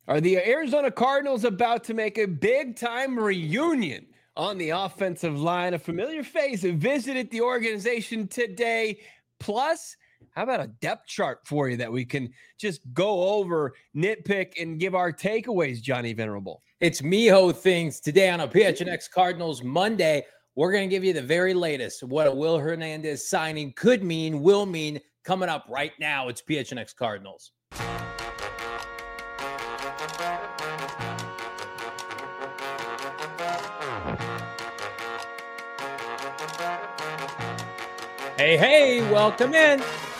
Are the Arizona Cardinals about to make a big-time reunion on the offensive line? A familiar face visited the organization today. Plus, how about a depth chart for you that we can just go over, nitpick, and give our takeaways, Johnny Venerable? It's Miho Things today on a PHNX Cardinals Monday. We're going to give you the very latest of what a Will Hernandez signing could mean, will mean, coming up right now. It's PHNX Cardinals. Hey, welcome in.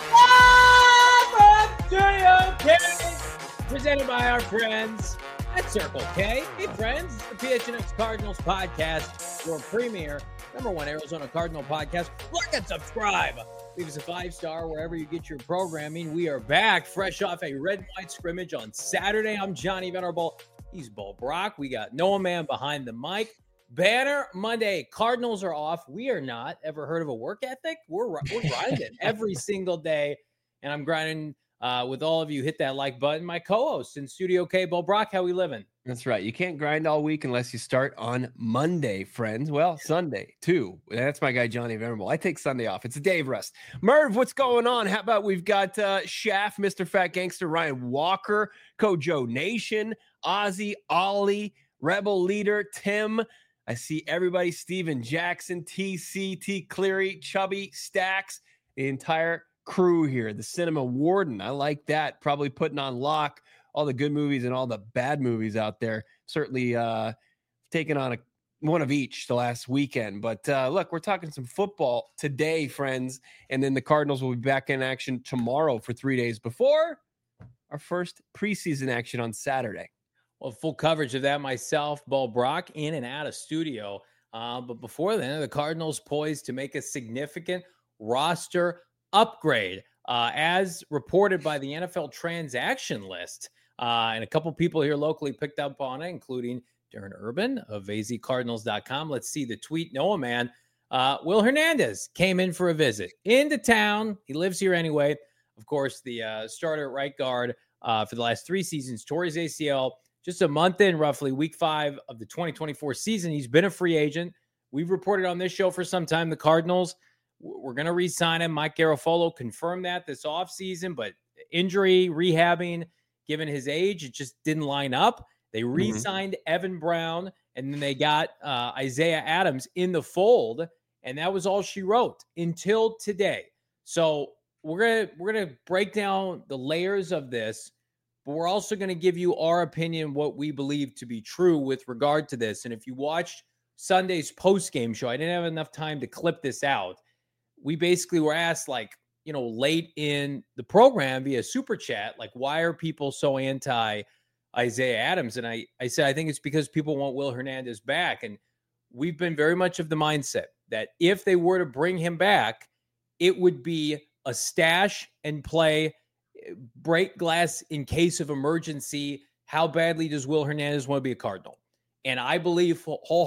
Studio K, presented by our friends at Circle K. Hey, friends, it's the PHNX Cardinals podcast, your premier, #1 Arizona Cardinal podcast. Like and subscribe. Leave us a 5-star wherever you get your programming. We are back, fresh off a red and white scrimmage on Saturday. I'm Johnny Venerable. He's Bo Brock. We got Noah Man behind the mic. Banner Monday. Cardinals are off. We are not. Ever heard of a work ethic? We're grinding every single day, and I'm grinding with all of you. Hit that like button. My co-host in Studio K, Bo Brock, how we living? That's right. You can't grind all week unless you start on Monday, friends. Well, Sunday, too. That's my guy, Johnny Venerable. I take Sunday off. It's a day of rest. Merv, what's going on? How about we've got Shaft, Mr. Fat Gangster, Ryan Walker, Kojo Nation, Ozzy, Ollie, Rebel Leader, Tim. I see everybody, Steven Jackson, TC, T Cleary, Chubby, Stacks, the entire crew here. The Cinema Warden. I like that. Probably putting on lock all the good movies and all the bad movies out there. Certainly taking on one of each the last weekend. But look, we're talking some football today, friends. And then the Cardinals will be back in action tomorrow for 3 days before our first preseason action on Saturday. Well, full coverage of that myself, Bo Brock, in and out of studio. But before then, the Cardinals poised to make a significant roster upgrade, as reported by the NFL transaction list. And a couple people here locally picked up on it, including Darren Urban of azcardinals.com. Let's see the tweet. Noah Man. Will Hernandez came in for a visit into town. He lives here anyway. Of course, the starter at right guard for the last 3 seasons, tore his ACL. Just a month in, roughly week 5 of the 2024 season. He's been a free agent. We've reported on this show for some time. The Cardinals, we're going to re-sign him. Mike Garafolo confirmed that this offseason, but injury, rehabbing, given his age, it just didn't line up. They re-signed Evan Brown, and then they got Isaiah Adams in the fold, and that was all she wrote until today. So we're gonna break down the layers of this, but we're also going to give you our opinion, what we believe to be true with regard to this. And if you watched Sunday's post-game show, I didn't have enough time to clip this out. We basically were asked, late in the program via Super Chat, why are people so anti Isaiah Adams? And I said, I think it's because people want Will Hernandez back. And we've been very much of the mindset that if they were to bring him back, it would be a stash and play, break glass in case of emergency. How badly does Will Hernandez want to be a Cardinal? And I believe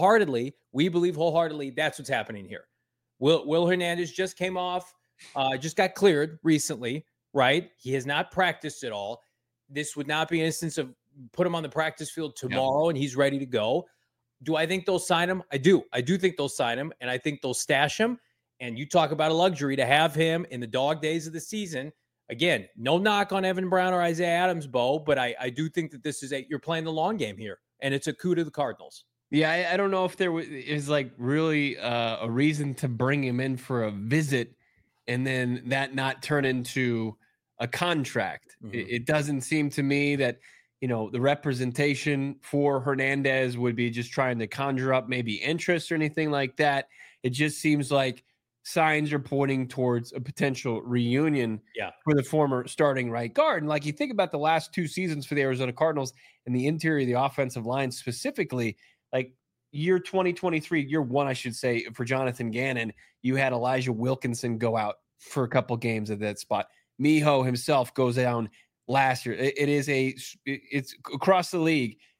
we believe wholeheartedly that's what's happening here. Will Hernandez just came off, just got cleared recently, right? He has not practiced at all. This would not be an instance of put him on the practice field tomorrow and he's ready to go. Do I think they'll sign him? I do. I do think they'll sign him, and I think they'll stash him. And you talk about a luxury to have him in the dog days of the season. Again, no knock on Evan Brown or Isaiah Adams, Bo, but I do think that this is you're playing the long game here, and it's a coup to the Cardinals. Yeah, I don't know if there is really a reason to bring him in for a visit and then that not turn into a contract. Mm-hmm. It doesn't seem to me that, the representation for Hernandez would be just trying to conjure up maybe interest or anything like that. It just seems like signs are pointing towards a potential reunion for the former starting right guard. And you think about the last 2 seasons for the Arizona Cardinals and the interior of the offensive line specifically, year 2023, year 1, I should say, for Jonathan Gannon, you had Elijah Wilkinson go out for a couple games at that spot. Miho himself goes down last year. It's across the league.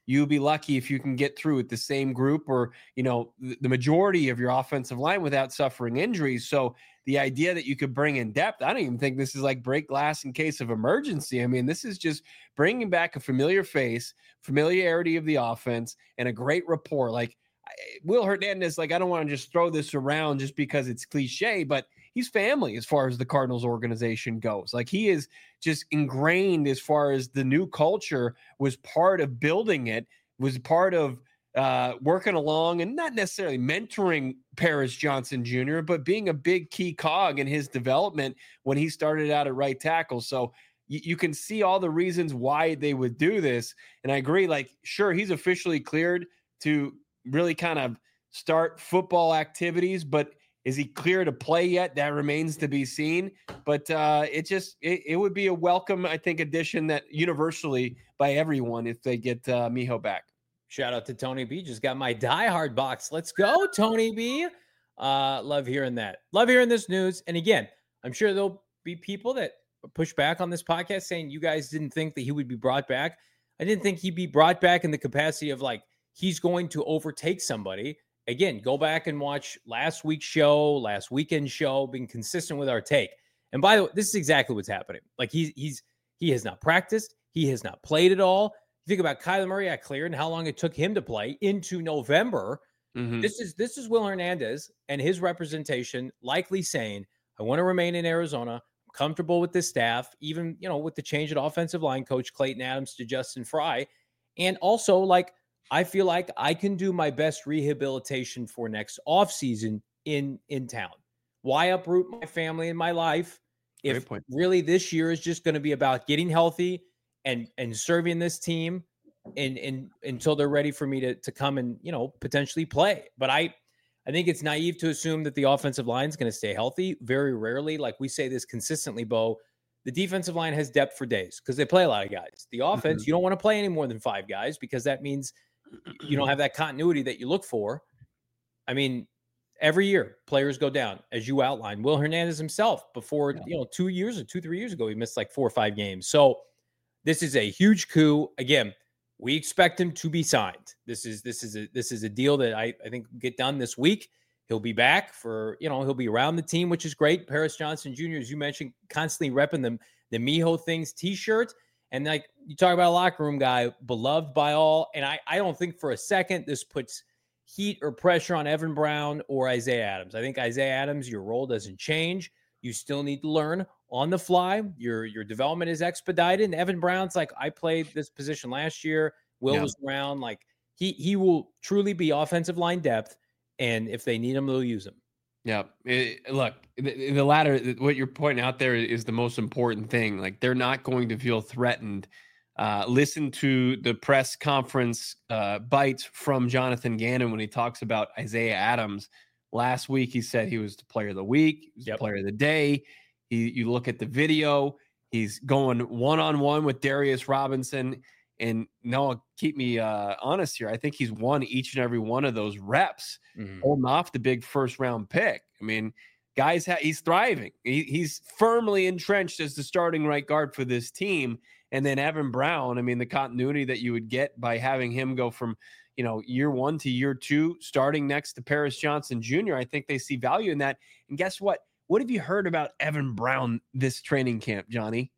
you'll be lucky if you can get through with the same group or, the majority of your offensive line without suffering injuries. So the idea that you could bring in depth, I don't even think this is like break glass in case of emergency. I mean, this is just bringing back a familiar face, familiarity of the offense, and a great rapport. Like Will Hernandez, like I don't want to just throw this around just because it's cliche, but he's family as far as the Cardinals organization goes. Like he is just ingrained as far as the new culture, was part of building it, was part of working along and not necessarily mentoring Paris Johnson Jr., but being a big key cog in his development when he started out at right tackle. So you can see all the reasons why they would do this. And I agree, like, sure, he's officially cleared to really kind of start football activities, but is he clear to play yet? That remains to be seen. But it would be a welcome, I think, addition that universally by everyone if they get Miho back. Shout out to Tony B. Just got my diehard box. Let's go, Tony B. Love hearing that. Love hearing this news. And again, I'm sure there'll be people that push back on this podcast saying you guys didn't think that he would be brought back. I didn't think he'd be brought back in the capacity of like he's going to overtake somebody. Again, go back and watch last week's show, last weekend's show, being consistent with our take. And by the way, this is exactly what's happening. Like he has not practiced. He has not played at all. You think about Kyler Murray at cleared and how long it took him to play into November. Mm-hmm. This is Will Hernandez and his representation likely saying, I want to remain in Arizona. I'm comfortable with this staff, even, with the change at offensive line coach Clayton Adams to Justin Fry. And also, like, I feel like I can do my best rehabilitation for next offseason in town. Why uproot my family and my life if really this year is just going to be about getting healthy and serving this team and until they're ready for me to come and, potentially play. But I think it's naive to assume that the offensive line is going to stay healthy. Very rarely, like we say this consistently, Bo, the defensive line has depth for days because they play a lot of guys. The offense, you don't want to play any more than 5 guys because that means you don't have that continuity that you look for. I mean, every year players go down, as you outlined. Will Hernandez himself before, 2 years or 2-3 years ago, he missed like 4 or 5 games. So this is a huge coup. Again, we expect him to be signed. This is a deal that I think will get done this week. He'll be back for, he'll be around the team, which is great. Paris Johnson Jr., as you mentioned, constantly repping the Miho Things t-shirt. And like you talk about a locker room guy, beloved by all. And I don't think for a second this puts heat or pressure on Evan Brown or Isaiah Adams. I think Isaiah Adams, your role doesn't change. You still need to learn on the fly. Your development is expedited. And Evan Brown's like, I played this position last year. Will was around. Like he will truly be offensive line depth. And if they need him, they'll use him. Yeah. Look, the latter, what you're pointing out there is the most important thing. Like they're not going to feel threatened. Listen to the press conference bites from Jonathan Gannon when he talks about Isaiah Adams. Last week, he said he was the player of the week. He was the player of the day. You look at the video, he's going one-on-one with Darius Robinson. And Noah, keep me honest here. I think he's won each and every one of those reps, holding off the big first-round pick. I mean, guys, he's thriving. He's firmly entrenched as the starting right guard for this team. And then Evan Brown, I mean, the continuity that you would get by having him go from, year 1 to year 2, starting next to Paris Johnson Jr., I think they see value in that. And guess what? What have you heard about Evan Brown this training camp, Johnny?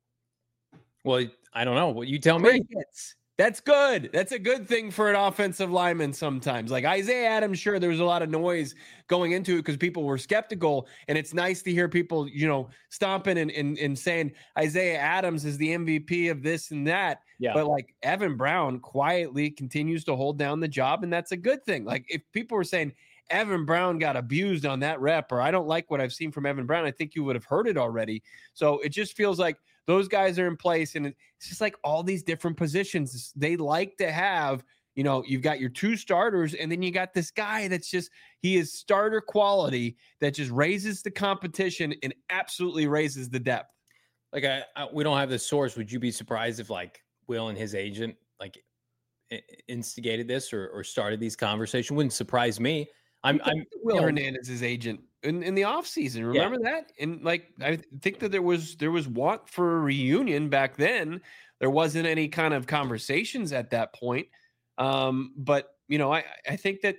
Well, I don't know. What you tell me. That's good. That's a good thing for an offensive lineman sometimes. Like Isaiah Adams, sure, there was a lot of noise going into it because people were skeptical. And it's nice to hear people, stomping and saying Isaiah Adams is the MVP of this and that. Yeah. But like Evan Brown quietly continues to hold down the job. And that's a good thing. Like if people were saying Evan Brown got abused on that rep, or I don't like what I've seen from Evan Brown, I think you would have heard it already. So it just feels like those guys are in place, and it's just like all these different positions. They like to have, you've got your 2 starters, and then you got this guy that's just, he is starter quality that just raises the competition and absolutely raises the depth. Like we don't have the source. Would you be surprised if like Will and his agent like instigated this or started these conversations? Wouldn't surprise me. I'm Will Hernandez's agent in the offseason. Remember that? And like, I think that there was want for a reunion back then. There wasn't any kind of conversations at that point. But I think that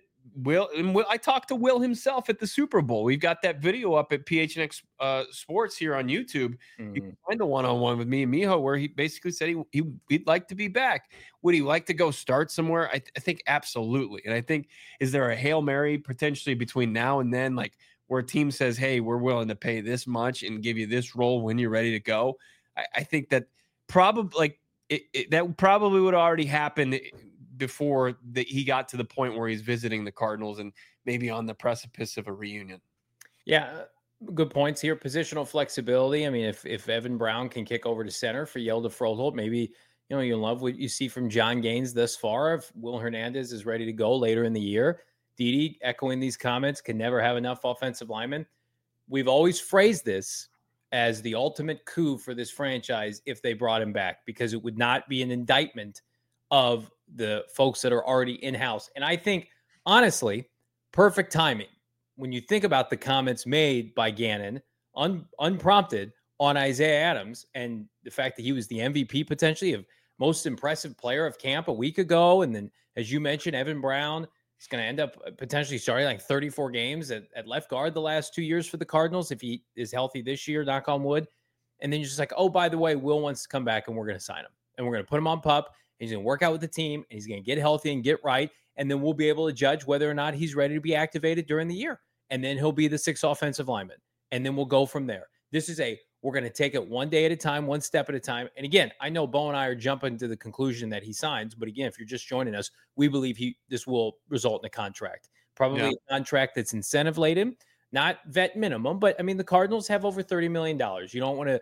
I talked to Will himself at the Super Bowl. We've got that video up at PHNX Sports here on YouTube. You can find the one-on-one with me and Miho where he basically said he'd like to be back. Would he like to go start somewhere? I think absolutely. And I think, is there a Hail Mary potentially between now and then, like where a team says, hey, we're willing to pay this much and give you this role when you're ready to go? I think that probably that probably would already happen before he got to the point where he's visiting the Cardinals and maybe on the precipice of a reunion. Yeah, good points here. Positional flexibility. I mean, if Evan Brown can kick over to center for Hjalte Froholdt, maybe you love what you see from John Gaines thus far. If Will Hernandez is ready to go later in the year, Didi echoing these comments, can never have enough offensive linemen. We've always phrased this as the ultimate coup for this franchise if they brought him back, because it would not be an indictment of the folks that are already in-house. And I think, honestly, perfect timing. When you think about the comments made by Gannon, unprompted, on Isaiah Adams, and the fact that he was the MVP potentially of most impressive player of camp a week ago. And then, as you mentioned, Evan Brown is going to end up potentially starting like 34 games at left guard the last 2 years for the Cardinals if he is healthy this year, knock on wood. And then you're just like, oh, by the way, Will wants to come back and we're going to sign him. And we're going to put him on PUP. He's going to work out with the team, and he's going to get healthy and get right. And then we'll be able to judge whether or not he's ready to be activated during the year. And then he'll be the 6th offensive lineman. And then we'll go from there. This is we're going to take it one day at a time, one step at a time. And again, I know Bo and I are jumping to the conclusion that he signs. But again, if you're just joining us, we believe this will result in a contract. Probably a contract that's incentive laden, not vet minimum. But I mean, the Cardinals have over $30 million. You don't want to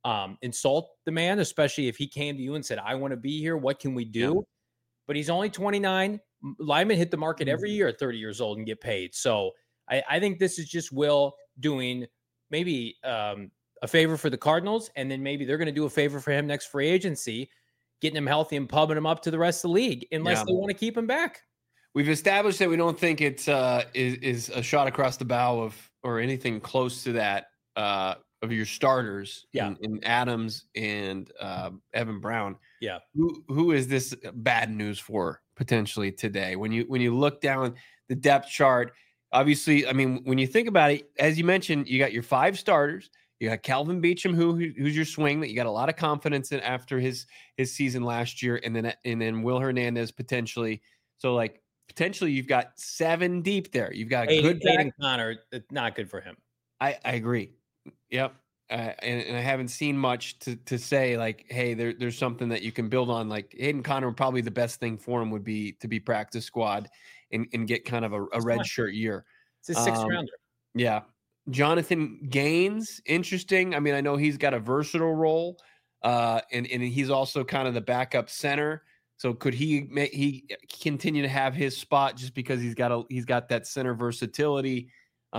insult the man, especially if he came to you and said, I want to be here. What can we do? Yeah. But he's only 29. Linemen hit the market every year at 30 years old and get paid. So I think this is just Will doing maybe a favor for the Cardinals. And then maybe they're going to do a favor for him next free agency, getting him healthy and pubbing him up to the rest of the league, unless they want to keep him back. We've established that we don't think it's is a shot across the bow or anything close to that of your starters in Adams and Evan Brown. Yeah. Who is this bad news for potentially today? When you look down the depth chart, obviously, I mean, when you think about it, as you mentioned, you got your 5 starters. You got Calvin Beachum, who's your swing that you got a lot of confidence in after his season last year, and then Will Hernandez potentially. So like potentially you've got 7 deep there. You've got a good Hayden Conner. Not good for him. I agree. Yep. And I haven't seen much to say like, hey, there's something that you can build on. Like Hayden Conner, probably the best thing for him would be to be practice squad and get kind of a red shirt year. It's a 6th rounder. Yeah. Jonathan Gaines, interesting. I mean, I know he's got a versatile role, and he's also kind of the backup center. So could he continue to have his spot just because he's got that center versatility?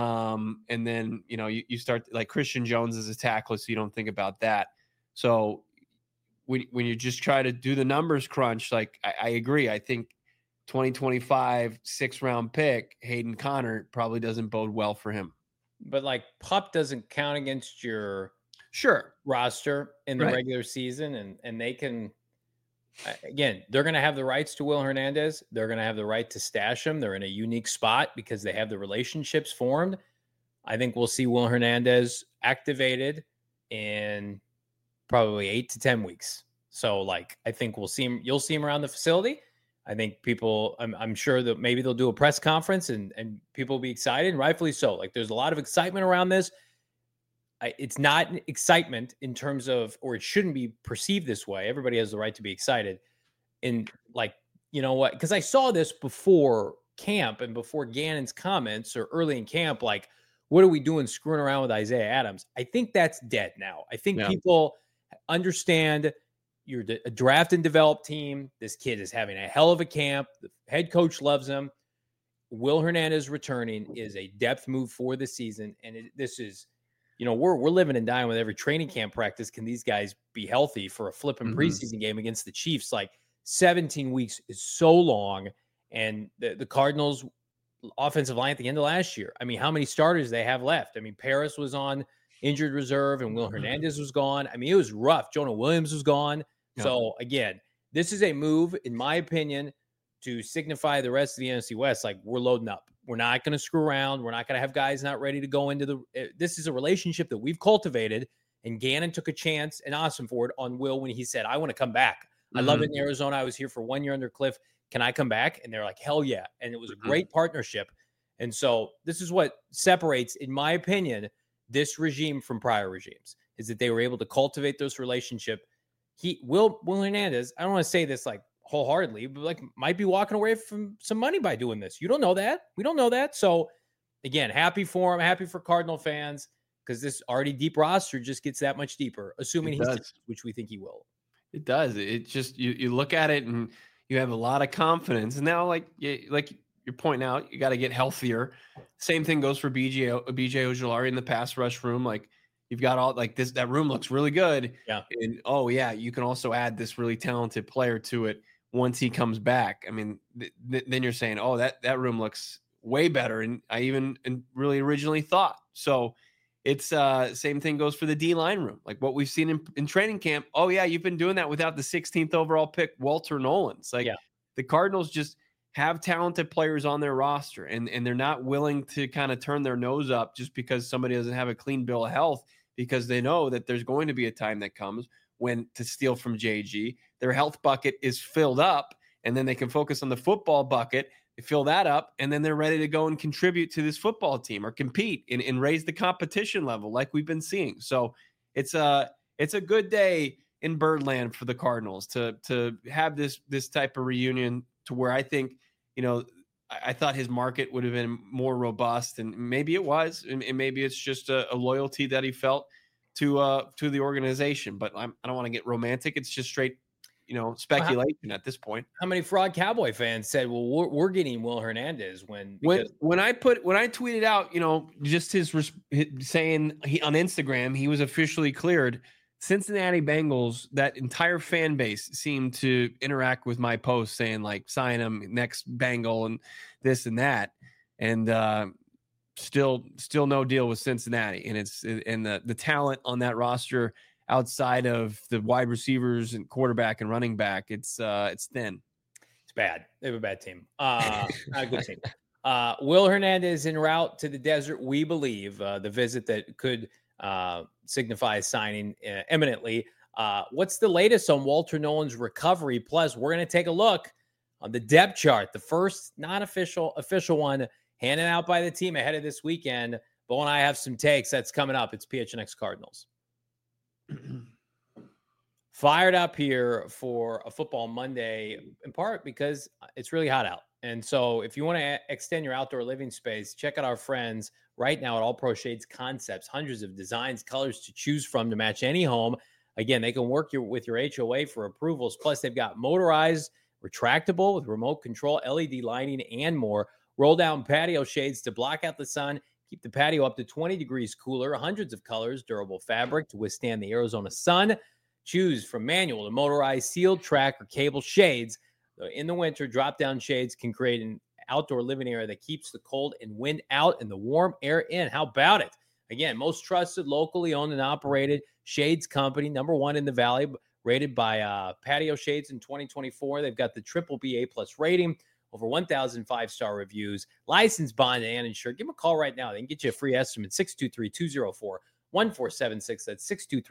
And then you start like Christian Jones as a tackler, so you don't think about that. So when you just try to do the numbers crunch, like I agree. I think 2025 6th round pick Hayden Conner probably doesn't bode well for him. But like PUP doesn't count against your roster in the regular season, and they can, again, they're going to have the rights to Will Hernandez. They're going to have the right to stash him. They're in a unique spot because they have the relationships formed. I think we'll see Will Hernandez activated in probably 8 to 10 weeks. So like, I think you'll see him around the facility. I think people, I'm sure that maybe they'll do a press conference and people will be excited, and rightfully so. Like there's a lot of excitement around this. It's not excitement in terms of, or it shouldn't be perceived this way. Everybody has the right to be excited. And like, you know what? Because I saw this before camp and before Gannon's comments or early in camp, like, what are we doing screwing around with Isaiah Adams? I think that's dead now. I think people understand you're a draft and develop team. This kid is having a hell of a camp. The head coach loves him. Will Hernandez returning is a depth move for the season. And this is, we're living and dying with every training camp practice. Can these guys be healthy for a flipping preseason game against the Chiefs? Like 17 weeks is so long. And the Cardinals offensive line at the end of last year, I mean, how many starters they have left? I mean, Paris was on injured reserve and Will Hernandez was gone. I mean, it was rough. Jonah Williams was gone. So again, this is a move, in my opinion, to signify the rest of the NFC West, like, we're loading up. We're not going to screw around. We're not going to have guys not ready to go into this is a relationship that we've cultivated. And Gannon took a chance and Ossenford on Will when he said, I want to come back. I love it in Arizona. I was here for 1 year under Cliff. Can I come back? And they're like, hell yeah. And it was a great partnership. And so this is what separates, in my opinion, this regime from prior regimes, is that they were able to cultivate this relationship. Will Hernandez, I don't want to say this like wholeheartedly, but like might be walking away from some money by doing this. You don't know that. We don't know that. So again, happy for him, happy for Cardinal fans, because this already deep roster just gets that much deeper, assuming he does, which we think he will. It does. It just, you look at it and you have a lot of confidence. And now, like you're pointing out, you got to get healthier. Same thing goes for BJ Ojulari in the pass rush room. Like, you've got all like this, that room looks really good. Yeah. And you can also add this really talented player to it once he comes back. I mean, then you're saying, oh, that room looks way better. And I even really originally thought. So it's same thing goes for the D-line room. Like what we've seen in training camp. Oh yeah, you've been doing that without the 16th overall pick, Walter Nolan's. Like the Cardinals just have talented players on their roster, and they're not willing to kind of turn their nose up just because somebody doesn't have a clean bill of health, because they know that there's going to be a time that comes when, to steal from JG, their health bucket is filled up, and then they can focus on the football bucket, they fill that up, and then they're ready to go and contribute to this football team or compete and raise the competition level like we've been seeing. So it's a good day in Birdland for the Cardinals to have this type of reunion, to where I think, I thought his market would have been more robust, and maybe it was, and maybe it's just a loyalty that he felt to the organization. But I don't want to get romantic. It's just straight, speculation at this point. How many fraud Cowboy fans said, "Well, we're getting Will Hernandez"? When I tweeted out, just his saying on Instagram he was officially cleared. Cincinnati Bengals, that entire fan base seemed to interact with my post saying like, sign him, next Bengal, and this and that. And still no deal with Cincinnati. And the talent on that roster outside of the wide receivers and quarterback and running back, it's thin. It's bad. They have a bad team. Not a good team. Will Hernandez en route to the desert, we believe, the visit that could signify signing imminently. What's the latest on Walter Nolan's recovery? Plus, we're going to take a look on the depth chart, the first non-official one handed out by the team ahead of this weekend. Bo and I have some takes. That's coming up. It's PHNX Cardinals. Fired up here for a football Monday, in part because it's really hot out. And so if you want to extend your outdoor living space, check out our friends right now at All Pro Shades Concepts. Hundreds of designs, colors to choose from to match any home. Again, they can work with your HOA for approvals. Plus, they've got motorized, retractable with remote control, LED lighting, and more. Roll down patio shades to block out the sun. Keep the patio up to 20 degrees cooler. Hundreds of colors, durable fabric to withstand the Arizona sun. Choose from manual to motorized, sealed, track, or cable shades. In the winter, drop-down shades can create an outdoor living area that keeps the cold and wind out and the warm air in. How about it? Again, most trusted, locally owned and operated shades company, #1 in the Valley, rated by Patio Shades in 2024. They've got the BBB A+ rating, over 1,000 five-star reviews, licensed, bonded, and insured. Give them a call right now. They can get you a free estimate, 623-204-1476. That's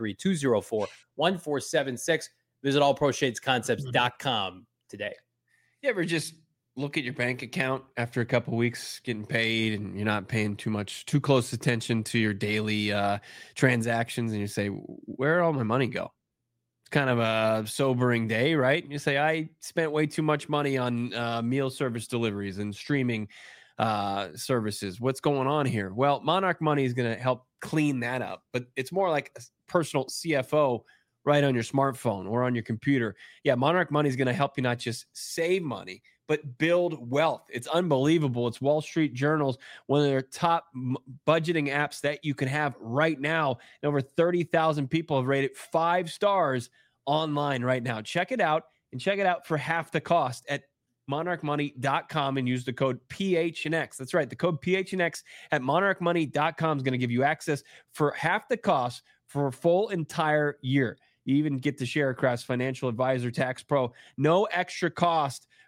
623-204-1476. Visit allproshadesconcepts.com today. You ever just look at your bank account after a couple of weeks getting paid and you're not paying too close attention to your daily transactions, and you say, where did all my money go? It's kind of a sobering day, right? And you say, I spent way too much money on meal service deliveries and streaming services. What's going on here? Well, Monarch Money is going to help clean that up, but it's more like a personal CFO right on your smartphone or on your computer. Yeah, Monarch Money is going to help you not just save money, but build wealth. It's unbelievable. It's Wall Street Journal's one of their top budgeting apps that you can have right now. And over 30,000 people have rated 5 stars online right now. Check it out, and check it out for half the cost at monarchmoney.com and use the code PHNX. That's right. The code PHNX at monarchmoney.com is going to give you access for half the cost for a full entire year. You even get to share Craft's financial advisor, Tax Pro. No extra cost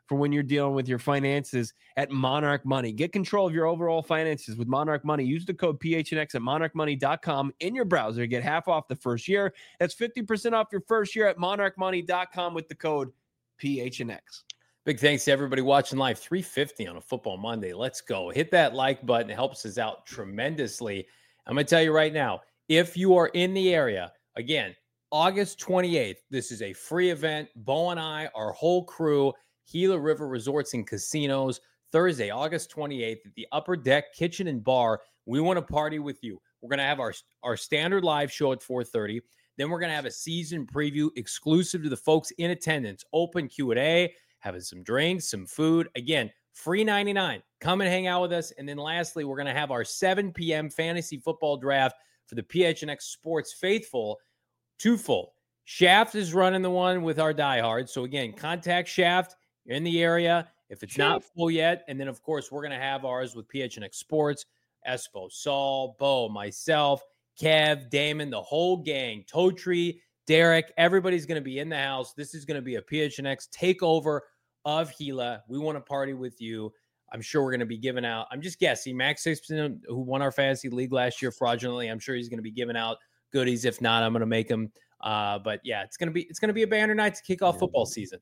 for when you're dealing with your finances at Monarch Money. Get control of your overall finances with Monarch Money. Use the code PHNX at monarchmoney.com in your browser to get half off the first year. That's 50% off your first year at monarchmoney.com with the code PHNX. Big thanks to everybody watching live. 350 on a football Monday. Let's go. Hit that like button. It helps us out tremendously. I'm going to tell you right now, if you are in the area, again, August 28th, this is a free event. Bo and I, our whole crew, Gila River Resorts and Casinos, Thursday, August 28th at the Upper Deck Kitchen and Bar. We want to party with you. We're going to have our standard live show at 4:30. Then we're going to have a season preview exclusive to the folks in attendance, open Q&A, having some drinks, some food. Again, free 99. Come and hang out with us. And then lastly, we're going to have our 7 p.m. fantasy football draft for the PHNX Sports Faithful. Twofold. Shaft is running the one with our diehards. So again, contact Shaft. You're in the area. If it's not full yet. And then, of course, we're going to have ours with PHNX Sports. Espo, Saul, Bo, myself, Kev, Damon, the whole gang, Totri, Derek, everybody's going to be in the house. This is going to be a PHNX takeover of Gila. We want to party with you. I'm sure we're going to be giving out. I'm just guessing. Max Sixton, who won our fantasy league last year fraudulently, I'm sure he's going to be giving out goodies. If not, I'm going to make them. But yeah, it's going to be a banner night to kick off football season.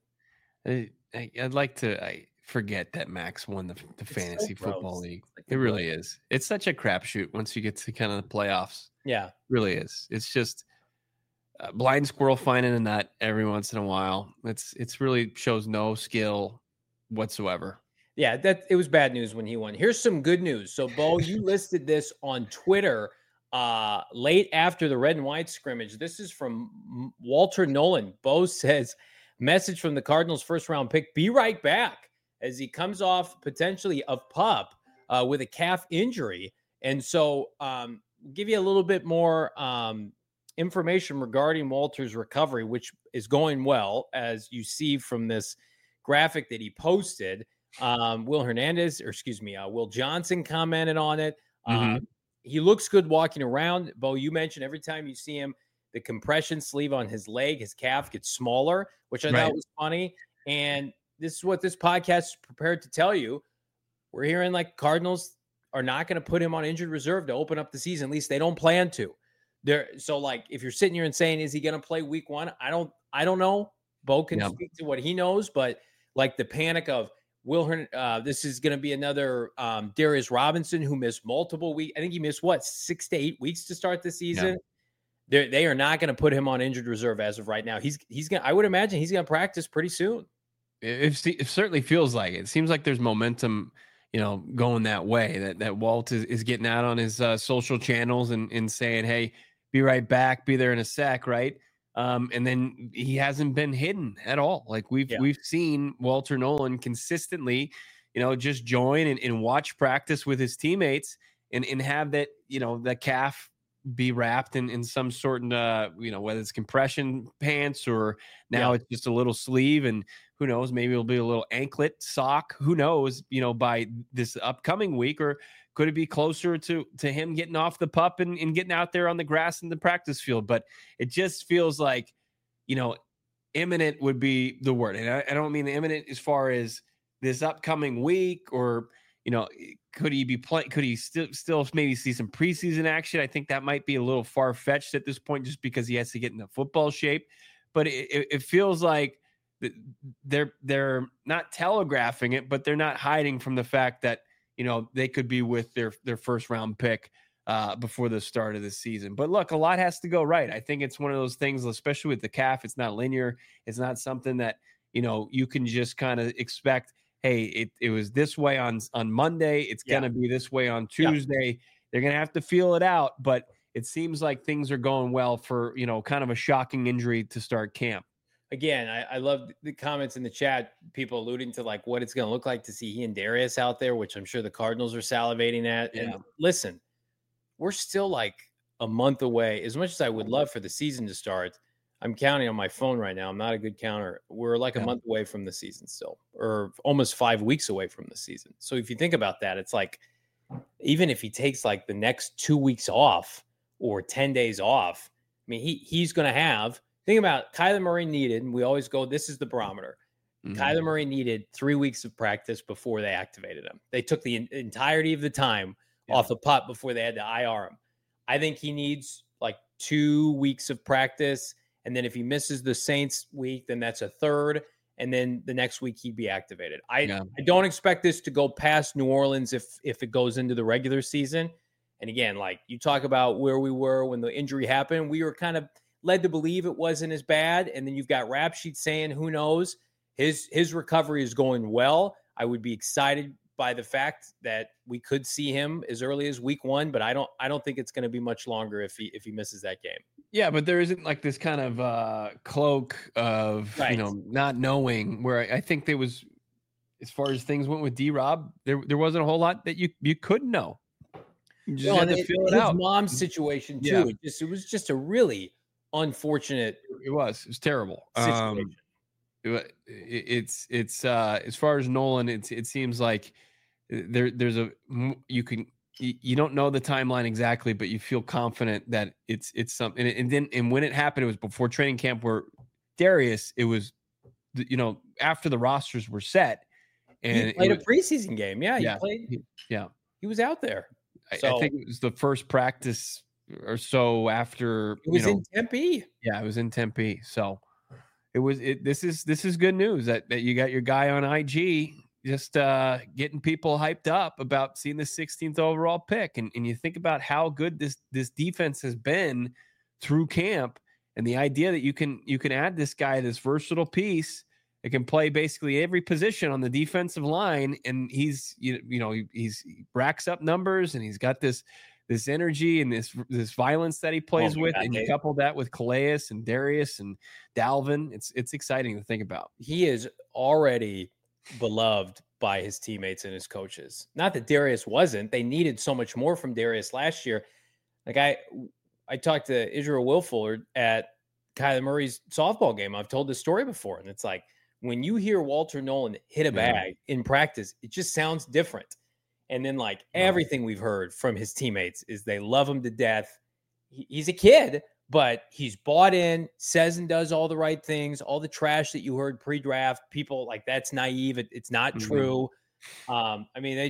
I'd like to. I forget that Max won the fantasy football league. Like it really is. It's such a crapshoot once you get to kind of the playoffs. Yeah, really is. It's just blind squirrel finding a nut every once in a while. It's really shows no skill whatsoever. Yeah, that it was bad news when he won. Here's some good news. So, Bo, you listed this on Twitter late after the red and white scrimmage. This is from Walter Nolan. Bo says, message from the Cardinals first round pick, be right back, as he comes off potentially of PUP with a calf injury. And so give you a little bit more information regarding Walter's recovery, which is going well, as you see from this graphic that he posted. Will Johnson commented on it. He looks good walking around. Bo, you mentioned every time you see him, the compression sleeve on his leg, his calf gets smaller, which I thought was funny. And this is what this podcast is prepared to tell you. We're hearing like Cardinals are not going to put him on injured reserve to open up the season. At least they don't plan to. So like, if you're sitting here and saying, is he going to play week one? I don't know. Bo can speak to what he knows, but like the panic of this is going to be another Darius Robinson who missed multiple weeks. I think he missed 6 to 8 weeks to start the season. Yeah. They are not going to put him on injured reserve as of right now. He's going. I would imagine he's going to practice pretty soon. It certainly feels like it. It seems like there's momentum, going that way. That Walt is getting out on his social channels and saying, "Hey, be right back. Be there in a sec." Right. And then he hasn't been hidden at all. Like we've seen Walter Nolan consistently, just join and watch practice with his teammates and have that, the calf be wrapped in some sort of, whether it's compression pants or now it's just a little sleeve, and who knows, maybe it'll be a little anklet sock, who knows, by this upcoming week, or could it be closer to him getting off the pup and getting out there on the grass in the practice field? But it just feels like, imminent would be the word. And I don't mean imminent as far as this upcoming week or, could he be playing? Could he still maybe see some preseason action? I think that might be a little far fetched at this point, just because he has to get into football shape. But it feels like they're not telegraphing it, but they're not hiding from the fact that they could be with their first round pick before the start of the season. But look, a lot has to go right. I think it's one of those things, especially with the calf. It's not linear. It's not something that you can just kind of expect. Hey, it was this way on Monday. It's going to be this way on Tuesday. Yeah. They're going to have to feel it out. But it seems like things are going well for, kind of a shocking injury to start camp. Again, I love the comments in the chat, people alluding to like what it's going to look like to see he and Darius out there, which I'm sure the Cardinals are salivating at. Yeah. And listen, we're still like a month away. As much as I would love for the season to start, I'm counting on my phone right now. I'm not a good counter. We're like a month away from the season still, or almost 5 weeks away from the season. So if you think about that, it's like, even if he takes like the next 2 weeks off or 10 days off, I mean, he's going to have, think about Kyler Murray needed, and we always go, this is the barometer. Kyler Murray needed 3 weeks of practice before they activated him. They took the entirety of the time off the pup before they had to IR him. I think he needs like 2 weeks of practice. And then if he misses the Saints week, then that's a third. And then the next week he'd be activated. I don't expect this to go past New Orleans if it goes into the regular season. And again, like you talk about where we were when the injury happened, we were kind of led to believe it wasn't as bad. And then you've got Rap Sheet saying, who knows? His recovery is going well. I would be excited by the fact that we could see him as early as week 1, but I don't think it's going to be much longer if he misses that game. Yeah, but there isn't like this kind of cloak of not knowing where I think there was, as far as things went with D-Rob, there wasn't a whole lot that you couldn't know. You just had to feel it out. His mom's situation too. Yeah. It was just a really unfortunate. It was terrible situation. It's as far as Nolan, it seems like there's you don't know the timeline exactly, but you feel confident that it's something. And when it happened, it was before training camp where Darius, it was, after the rosters were set, and he played a preseason game. Yeah. He played. He was out there. I think it was the first practice or so after. It was in Tempe. Yeah, it was in Tempe. So this is good news that you got your guy on IG just getting people hyped up about seeing the 16th overall pick. And you think about how good this defense has been through camp, and the idea that you can add this guy, this versatile piece that can play basically every position on the defensive line. And he racks up numbers, and he's got this energy and this violence that he plays with, and you couple that with Calais and Darius and Dalvin. It's exciting to think about. He is already beloved by his teammates and his coaches. Not that Darius wasn't. They needed so much more from Darius last year. Like I talked to Israel Wilford at Kyler Murray's softball game. I've told this story before, and it's like when you hear Walter Nolan hit a bag in practice, it just sounds different. And then everything we've heard from his teammates is they love him to death. He's a kid, but he's bought in, says and does all the right things. All the trash that you heard pre-draft, people like that's naive. It's not true. I mean,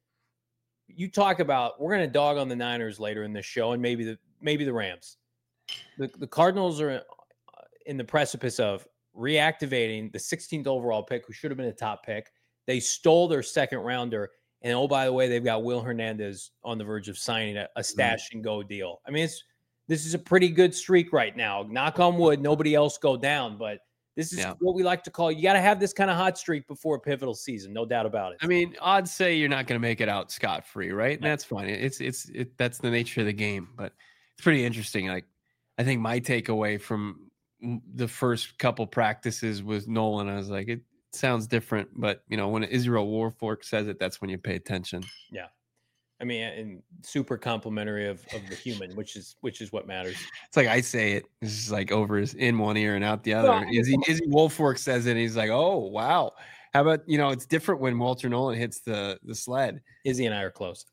you talk about, we're going to dog on the Niners later in this show, and maybe the Rams. The Cardinals are in the precipice of reactivating the 16th overall pick, who should have been a top pick. They stole their second rounder. And oh, by the way, they've got Will Hernandez on the verge of signing a stash and go deal. I mean, this is a pretty good streak right now. Knock on wood, nobody else go down. But this is what we like to call, you got to have this kind of hot streak before a pivotal season, no doubt about it. I mean, odds say you're not going to make it out scot-free, right? And that's fine. That's the nature of the game. But it's pretty interesting. Like, I think my takeaway from the first couple practices with Nolan, I was like, it sounds different, but when Israel Warfork says it, that's when you pay attention. Yeah, I mean, and super complimentary of the human, which is what matters. It's like I say it, it's just like in one ear and out the other. Well, Izzy Wolfork says it, and he's like, oh wow. How about it's different when Walter Nolan hits the sled. Izzy and I are close.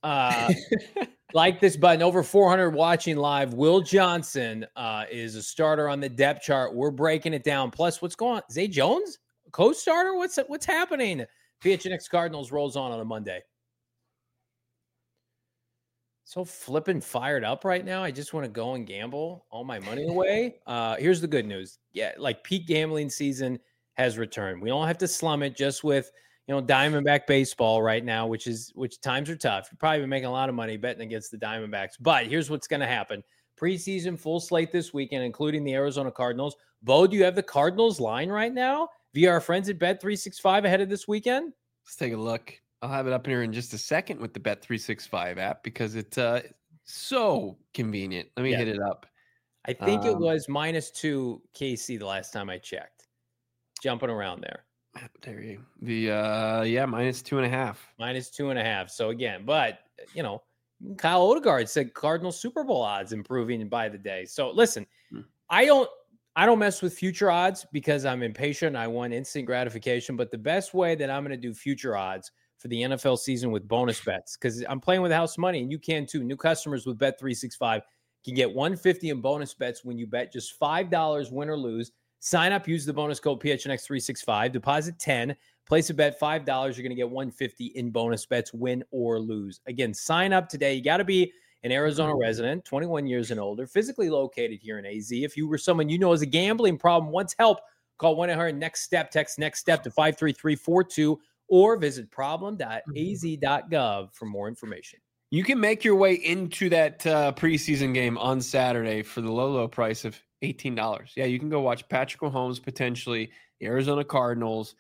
Like this button, over 400 watching live. Will Johnson is a starter on the depth chart. We're breaking it down. Plus, what's going on? Zay Jones? Co-starter? What's happening? PHNX Cardinals rolls on a Monday. So flipping fired up right now. I just want to go and gamble all my money away. Here's the good news. Yeah, like peak gambling season has returned. We don't have to slum it just with Diamondback baseball right now, which times are tough. You're probably been making a lot of money betting against the Diamondbacks. But here's what's going to happen. Preseason full slate this weekend, including the Arizona Cardinals. Bo, do you have the Cardinals line right now via our friends at Bet365 ahead of this weekend? Let's take a look. I'll have it up here in just a second with the Bet365 app because it's so convenient. Let me hit it up. I think it was -2 KC the last time I checked. Jumping around there. There you go. -2.5. -2.5. So again, but Kyle Odegaard said Cardinals Super Bowl odds improving by the day. So listen, I don't mess with future odds because I'm impatient. I want instant gratification. But the best way that I'm going to do future odds for the NFL season with bonus bets, because I'm playing with house money and you can too. New customers with Bet365 can get $150 in bonus bets when you bet just $5 win or lose. Sign up, use the bonus code PHNX365, deposit 10, place a bet $5. You're going to get 150 in bonus bets, win or lose. Again, sign up today. You got to be an Arizona resident, 21 years and older, physically located here in AZ. If you were someone you know has a gambling problem, wants help, call 1-800-NEXT-STEP, text NEXT STEP to 53342, or visit problem.az.gov for more information. You can make your way into that preseason game on Saturday for the low price of $18. Yeah, you can go watch Patrick Mahomes, potentially the Arizona Cardinals,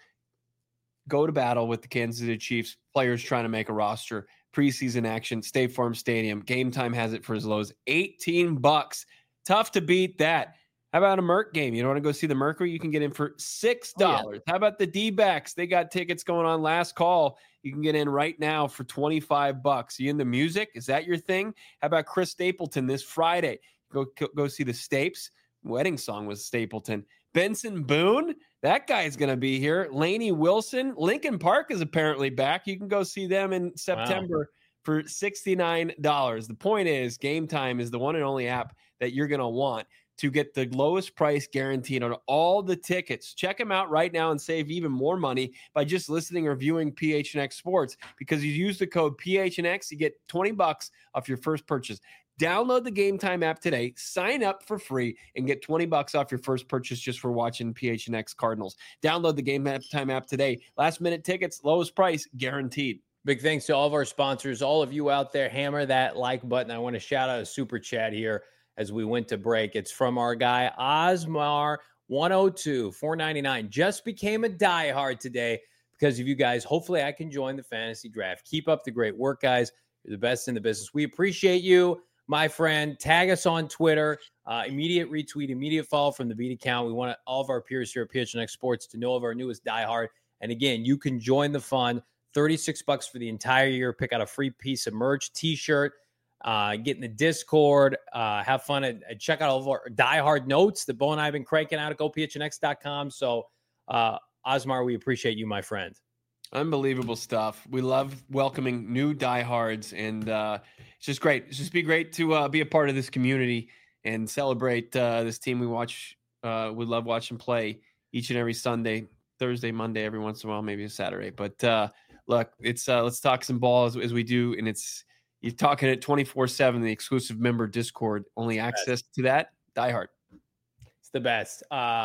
go to battle with the Kansas City Chiefs, players trying to make a roster, preseason action, State Farm Stadium. Game Time has it for as low as $18. Tough to beat that. How about a Merc game? You don't want to go see the Mercury? You can get in for $6. Oh, yeah. How about the D-backs? They got tickets going on last call. You can get in right now for $25. You into music? Is that your thing? How about Chris Stapleton this Friday? Go see the Stapes. Wedding song was Stapleton. Benson Boone, that guy's going to be here. Lainey Wilson. Lincoln Park is apparently back. You can go see them in September for $69. The point is, Game Time is the one and only app that you're going to want to get the lowest price guaranteed on all the tickets. Check them out right now and save even more money by just listening or viewing PHNX Sports, because you use the code PHNX, you get $20 off your first purchase. Download the Game Time app today, sign up for free, and get $20 off your first purchase just for watching PHNX Cardinals. Download the Game Time app today. Last minute tickets, lowest price guaranteed. Big thanks to all of our sponsors, all of you out there. Hammer that like button. I want to shout out a super chat here as we went to break. It's from our guy Osmar 102 $4.99. Just became a diehard today because of you guys. Hopefully I can join the fantasy draft. Keep up the great work, guys. You're the best in the business. We appreciate you, my friend. Tag us on Twitter. Immediate retweet, immediate follow from the beat account. We want all of our peers here at PHNX Sports to know of our newest diehard. And again, you can join the fun. $36 for the entire year. Pick out a free piece of merch, t-shirt, get in the Discord, have fun, and check out all of our diehard notes that Bo and I have been cranking out at gophnx.com. So, Osmar, we appreciate you, my friend. Unbelievable stuff. We love welcoming new diehards, and it's just great. It's just great to be a part of this community and celebrate this team we watch. We love watching play each and every Sunday, Thursday, Monday, every once in a while, maybe a Saturday. But look, it's let's talk some ball as we do, and you're talking at 24/7, the exclusive member Discord, only access to that. Die Hard. It's the best.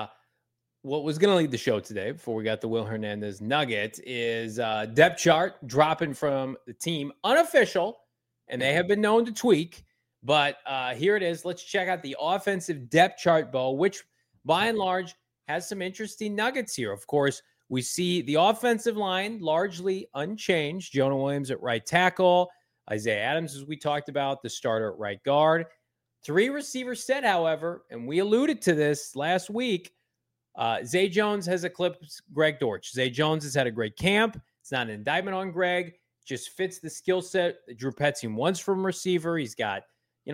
What was going to lead the show today before we got the Will Hernandez nugget is depth chart dropping from the team, unofficial, and they have been known to tweak. But here it is. Let's check out the offensive depth chart, Bo, which by and large has some interesting nuggets here. Of course, we see the offensive line largely unchanged. Jonah Williams at right tackle. Isaiah Adams, as we talked about, the starter at right guard. 3 receivers set, however, and we alluded to this last week. Zay Jones has eclipsed Greg Dortch. Zay Jones has had a great camp. It's not an indictment on Greg. Just fits the skill set that Drew Petzing wants from receiver. He's got,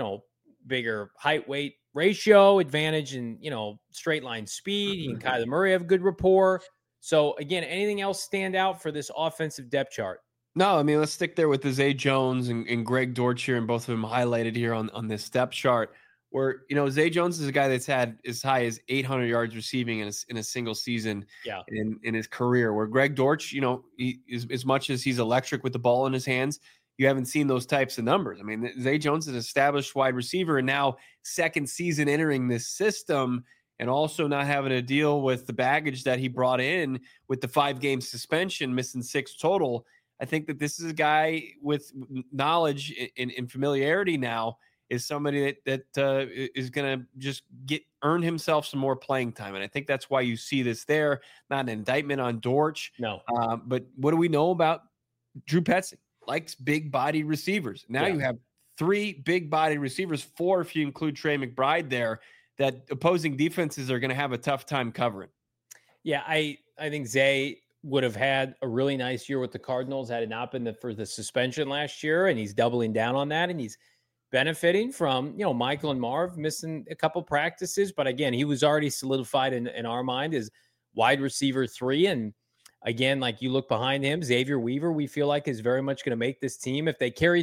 bigger height-weight ratio advantage and, straight line speed. He and Kyler Murray have good rapport. So, again, anything else stand out for this offensive depth chart? No, I mean, let's stick there with the Zay Jones and Greg Dortch here, and both of them highlighted here on this depth chart, where, Zay Jones is a guy that's had as high as 800 yards receiving in a single season in his career, where Greg Dortch, as much as he's electric with the ball in his hands, you haven't seen those types of numbers. I mean, Zay Jones is an established wide receiver, and now second season entering this system, and also not having to deal with the baggage that he brought in with the 5-game suspension, missing 6 total. I think that this is a guy with knowledge and familiarity now, is somebody that is going to just earn himself some more playing time. And I think that's why you see this there. Not an indictment on Dortch. No. But what do we know about Drew Petzing? Likes big-bodied receivers. Now you have 3 big-bodied receivers, 4 if you include Trey McBride there, that opposing defenses are going to have a tough time covering. Yeah, I think Zay would have had a really nice year with the Cardinals had it not been for the suspension last year, and he's doubling down on that, and he's benefiting from, Michael and Marv missing a couple practices. But again, he was already solidified in our mind as wide receiver 3. And again, like you look behind him, Xavier Weaver, we feel like is very much going to make this team. If they carry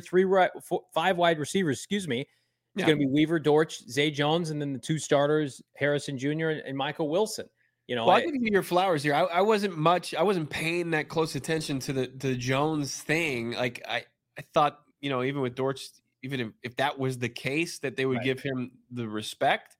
5 wide receivers, it's going to be Weaver, Dortch, Zay Jones, and then the 2 starters, Harrison Jr. and Michael Wilson. Well, I'll give you your flowers here. I wasn't paying that close attention to the Jones thing. Like I thought, even with Dortch, even if that was the case, that they would give him the respect.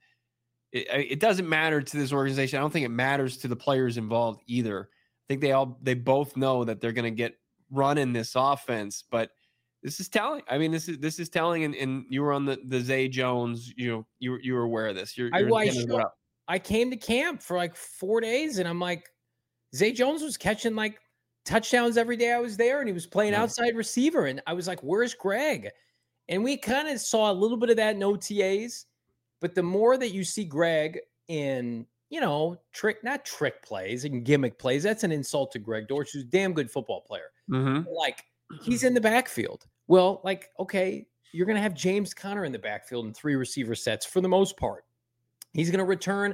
It doesn't matter to this organization. I don't think it matters to the players involved either. I think they both know that they're going to get run in this offense, but this is telling. I mean, this is telling. And you were on the Zay Jones. You were aware of this. I came to camp for like 4 days, and I'm like, Zay Jones was catching like touchdowns every day I was there, and he was playing outside receiver, and I was like, where's Greg? And we kind of saw a little bit of that in OTAs. But the more that you see Greg in, not trick plays and gimmick plays, that's an insult to Greg Dortch, who's a damn good football player. Mm-hmm. Like, he's in the backfield. Well, like, okay, you're going to have James Conner in the backfield in 3 receiver sets for the most part. He's going to return,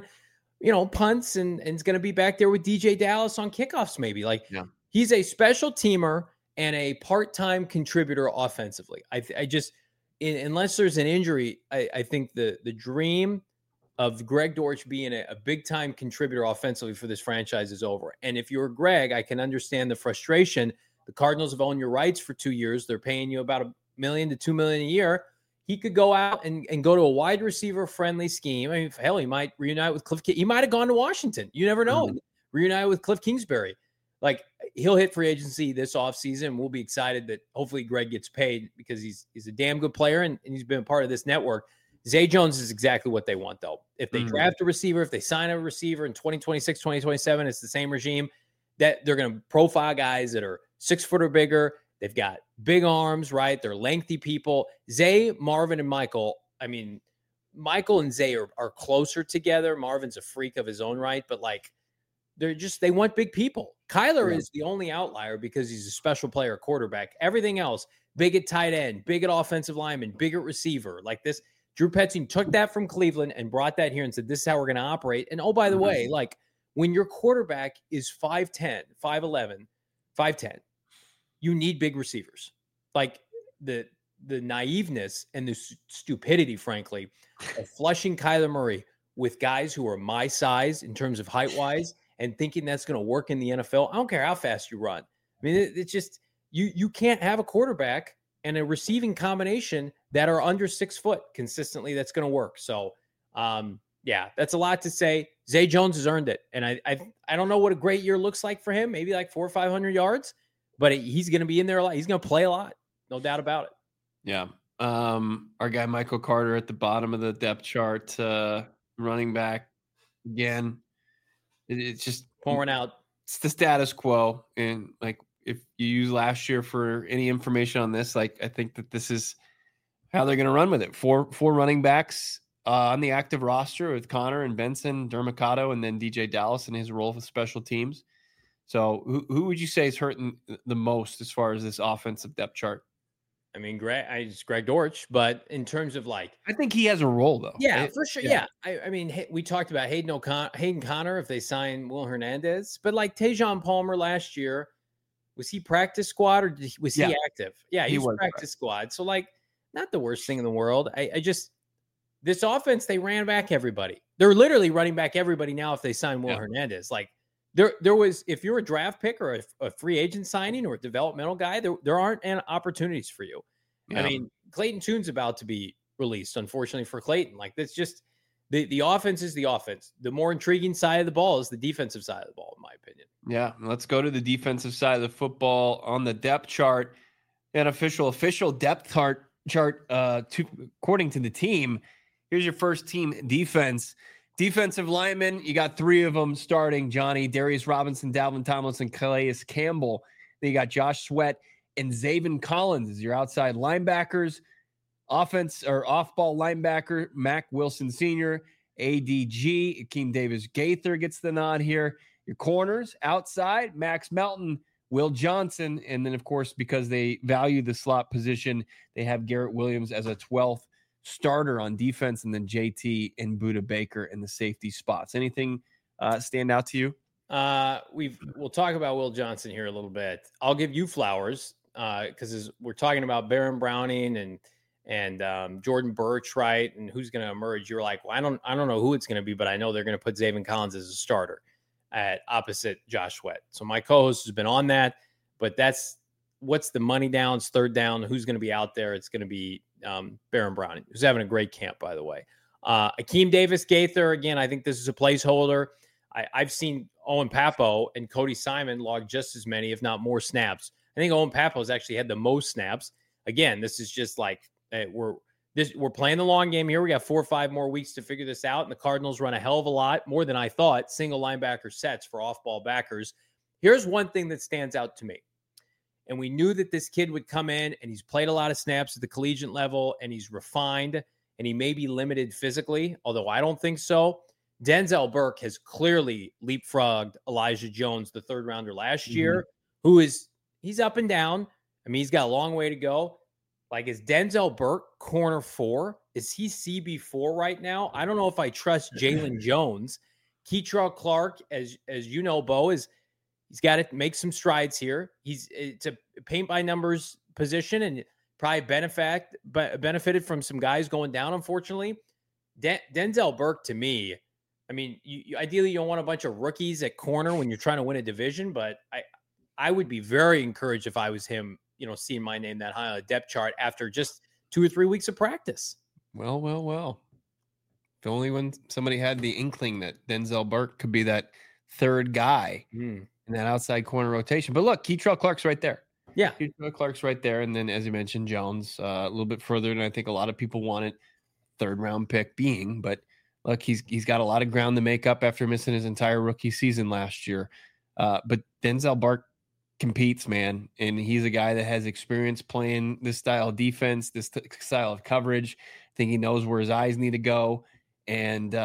punts and is going to be back there with DJ Dallas on kickoffs maybe. Like, he's a special teamer and a part-time contributor offensively. I just... unless there's an injury, I think the dream of Greg Dortch being a big-time contributor offensively for this franchise is over. And if you're Greg, I can understand the frustration. The Cardinals have owned your rights for 2 years. They're paying you about $1 million to $2 million a year. He could go out and go to a wide receiver-friendly scheme. I mean, hell, he might reunite with Cliff. He might have gone to Washington. You never know. Mm-hmm. Reunite with Cliff Kingsbury. Like, he'll hit free agency this offseason. We'll be excited that hopefully Greg gets paid because he's a damn good player and he's been part of this network. Zay Jones is exactly what they want, though. If they draft a receiver, if they sign a receiver in 2026, 2027, it's the same regime that they're going to profile guys that are 6 foot or bigger. They've got big arms, right? They're lengthy people. Zay, Marvin, and Michael. I mean, Michael and Zay are closer together. Marvin's a freak of his own right, but like, they want big people. Kyler is the only outlier because he's a special player quarterback. Everything else, big at tight end, big at offensive lineman, big at receiver. Like this, Drew Petzing took that from Cleveland and brought that here and said, this is how we're going to operate. And oh, by the way, like when your quarterback is 5'10", 5'11", 5'10", you need big receivers. Like the naiveness and the stupidity, frankly, of flushing Kyler Murray with guys who are my size in terms of height-wise and thinking that's going to work in the NFL. I don't care how fast you run. I mean, it's just you can't have a quarterback and a receiving combination that are under 6 foot consistently. That's going to work. So, that's a lot to say. Zay Jones has earned it, and I don't know what a great year looks like for him. Maybe like 400 or 500 yards, but he's going to be in there a lot. He's going to play a lot, no doubt about it. Yeah. Our guy Michael Carter at the bottom of the depth chart, running back again. It's just pouring out. It's the status quo. And like, if you use last year for any information on this, like, I think that this is how they're going to run with it. Four running backs on the active roster with Connor and Benson, Dermicado, and then DJ Dallas in his role for special teams. So who would you say is hurting the most as far as this offensive depth chart? I mean, it's Greg Dortch, but in terms of like, I think he has a role though. Yeah, for sure. Yeah. I mean, we talked about Hayden Connor if they sign Will Hernandez, but like Tajon Palmer last year, was he practice squad or was he active? Yeah, he was practice squad. So like, not the worst thing in the world. I just, this offense, they ran back everybody. They're literally running back everybody now if they sign Will Hernandez. Like there was, if you're a draft pick or a free agent signing or a developmental guy, there aren't opportunities for you. Yeah. I mean, Clayton Tune's about to be released, unfortunately for Clayton. Like that's just the offense is the offense. The more intriguing side of the ball is the defensive side of the ball, in my opinion. Yeah, let's go to the defensive side of the football on the depth chart. An official depth chart. According to the team, here's your first team defense. Defensive linemen, you got 3 of them starting. Johnny, Darius Robinson, Dalvin Tomlinson, Calais Campbell. Then you got Josh Sweat and Zaven Collins as your outside linebackers. Offense or off-ball linebacker, Mac Wilson Sr., ADG, Akeem Davis-Gaither gets the nod here. Your corners, outside, Max Melton, Will Johnson, and then, of course, because they value the slot position, they have Garrett Williams as a 12th starter on defense, and then JT and Budda Baker in the safety spots. Anything stand out to you? We'll talk about Will Johnson here a little bit. I'll give you flowers because we're talking about Baron Browning and Jordan Burch, right? And who's going to emerge? You're like, well, I don't know who it's going to be, but I know they're going to put Zaven Collins as a starter. at opposite Josh Sweat. So my co-host has been on that, but that's what's the money downs, third down, who's going to be out there. It's going to be Baron Browning, who's having a great camp, by the way. Akeem Davis-Gaither, again, I think this is a placeholder. I've seen Owen Papo and Cody Simon log just as many, if not more snaps. I think Owen Papo's actually had the most snaps. Again, this is just like we're playing the long game here. We got 4 or 5 more weeks to figure this out, and the Cardinals run a hell of a lot, more than I thought, single linebacker sets for off-ball backers. Here's one thing that stands out to me. And we knew that this kid would come in, and he's played a lot of snaps at the collegiate level, and he's refined, and he may be limited physically, although I don't think so. Denzel Burke has clearly leapfrogged Elijah Jones, the third rounder last year, he's up and down. I mean, he's got a long way to go. Like, is Denzel Burke corner 4? Is he CB4 right now? I don't know if I trust Jalen Jones. Keitrell Clark, as you know, Bo, he's got to make some strides here. It's a paint by numbers position, and probably benefited from some guys going down, unfortunately. Denzel Burke, to me, I mean, ideally you don't want a bunch of rookies at corner when you're trying to win a division, but I would be very encouraged if I was him, seeing my name that high on the depth chart after just 2 or 3 weeks of practice. Well. If only when somebody had the inkling that Denzel Burke could be that third guy in that outside corner rotation. But look, Keitrell Clark's right there. Yeah. Keitrell Clark's right there. And then, as you mentioned, Jones, a little bit further than I think a lot of people wanted, third round pick being. But look, he's got a lot of ground to make up after missing his entire rookie season last year. But Denzel Burke competes, man. And he's a guy that has experience playing this style of defense, this style of coverage. I think he knows where his eyes need to go. And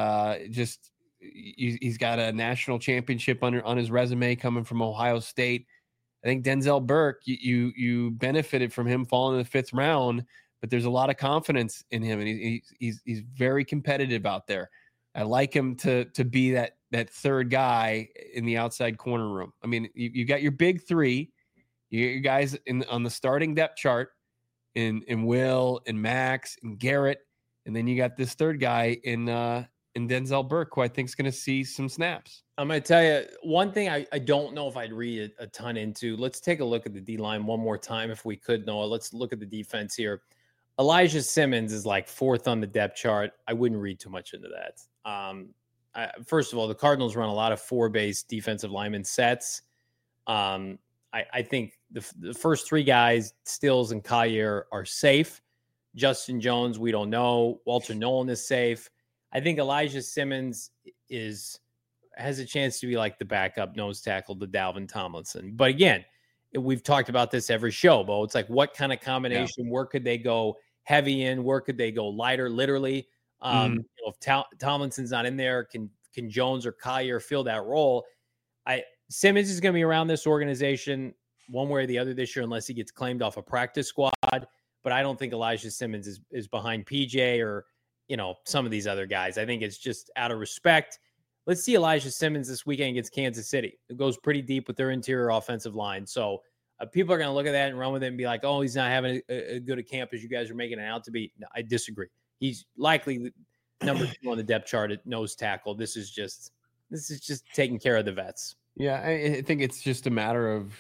he's got a national championship on his resume coming from Ohio State. I think Denzel Burke, you benefited from him falling in the 5th round, but there's a lot of confidence in him, and he's very competitive out there. I like him to be that third guy in the outside corner room. I mean, you got your big 3, you got your guys on the starting depth chart in Will and Max and Garrett, and then you got this third guy in Denzel Burke, who I think is going to see some snaps. I'm going to tell you one thing I don't know if I'd read a ton into. Let's take a look at the D-line one more time if we could, Noah. Let's look at the defense here. Elijah Simmons is like 4th on the depth chart. I wouldn't read too much into that. First of all, the Cardinals run a lot of 4-base defensive lineman sets. I think the first 3 guys, Stills and Collier, are safe. Justin Jones, we don't know. Walter Nolan is safe. I think Elijah Simmons has a chance to be like the backup nose tackle to Dalvin Tomlinson. But again, we've talked about this every show, Bo. It's like, what kind of combination? Yeah. Where could they go heavy in? Where could they go lighter? Literally, if Tomlinson's not in there, can Jones or Collier fill that role? Simmons is going to be around this organization one way or the other this year, unless he gets claimed off a practice squad. But I don't think Elijah Simmons is behind PJ or some of these other guys. I think it's just out of respect. Let's see Elijah Simmons this weekend against Kansas City. It goes pretty deep with their interior offensive line. So people are going to look at that and run with it and be like, oh, he's not having a good a camp as you guys are making it out to be. No, I disagree. He's likely number 2 on the depth chart at nose tackle. This is just taking care of the vets. Yeah, I think it's just a matter of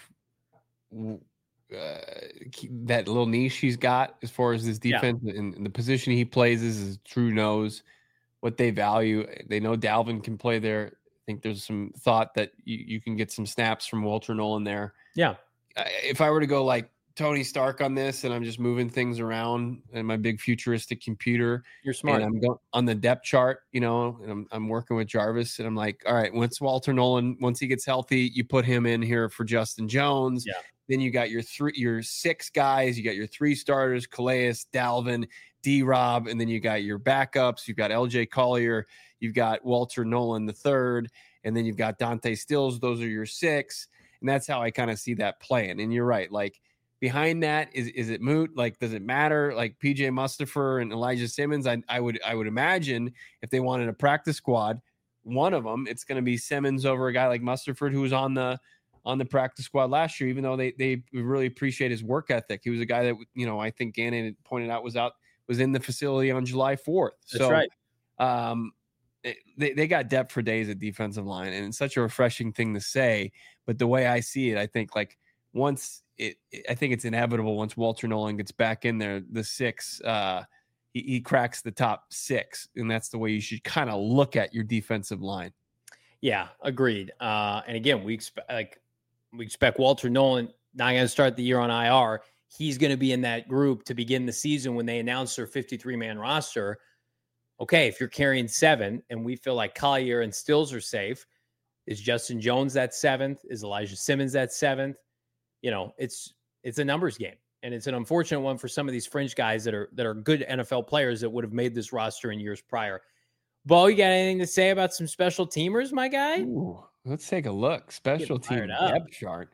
that little niche he's got as far as this defense and the position he plays is true nose. What they value. They know Dalvin can play there. I think there's some thought that you can get some snaps from Walter Nolan there. Yeah. If I were to go like Tony Stark on this and I'm just moving things around in my big futuristic computer, you're smart. And I'm going on the depth chart, and I'm working with Jarvis and I'm like, all right, once Walter Nolan, once he gets healthy, you put him in here for Justin Jones. Yeah. Then you got your 6 guys, you got your 3 starters, Calais, Dalvin, D-Rob, and then you got your backups. You've got LJ Collier, you've got Walter Nolan the third, and then you've got Dante Stills. Those are your 6, and that's how I kind of see that playing. And you're right, like behind that, is it moot? Like, does it matter? Like PJ Mustipher and Elijah Simmons, I would imagine if they wanted a practice squad, one of them, it's going to be Simmons over a guy like Mustipher who was on the practice squad last year, even though they really appreciate his work ethic. He was a guy that, I think Gannon had pointed out was in the facility on July 4th. That's right. they got depth for days at defensive line, and it's such a refreshing thing to say. But the way I see it, I think like once I think it's inevitable once Walter Nolan gets back in there, the six, he cracks the top six, and that's the way you should kind of look at your defensive line. Yeah, agreed. And again, we expect Walter Nolan not going to start the year on IR. He's going to be in that group to begin the season when they announce their 53-man roster. Okay, if you're carrying 7 and we feel like Collier and Stills are safe, is Justin Jones that 7th? Is Elijah Simmons that 7th? You know, it's a numbers game, and it's an unfortunate one for some of these fringe guys that are good NFL players that would have made this roster in years prior. Bo, you got anything to say about some special teamers, my guy? Ooh, let's take a look. Special team depth chart.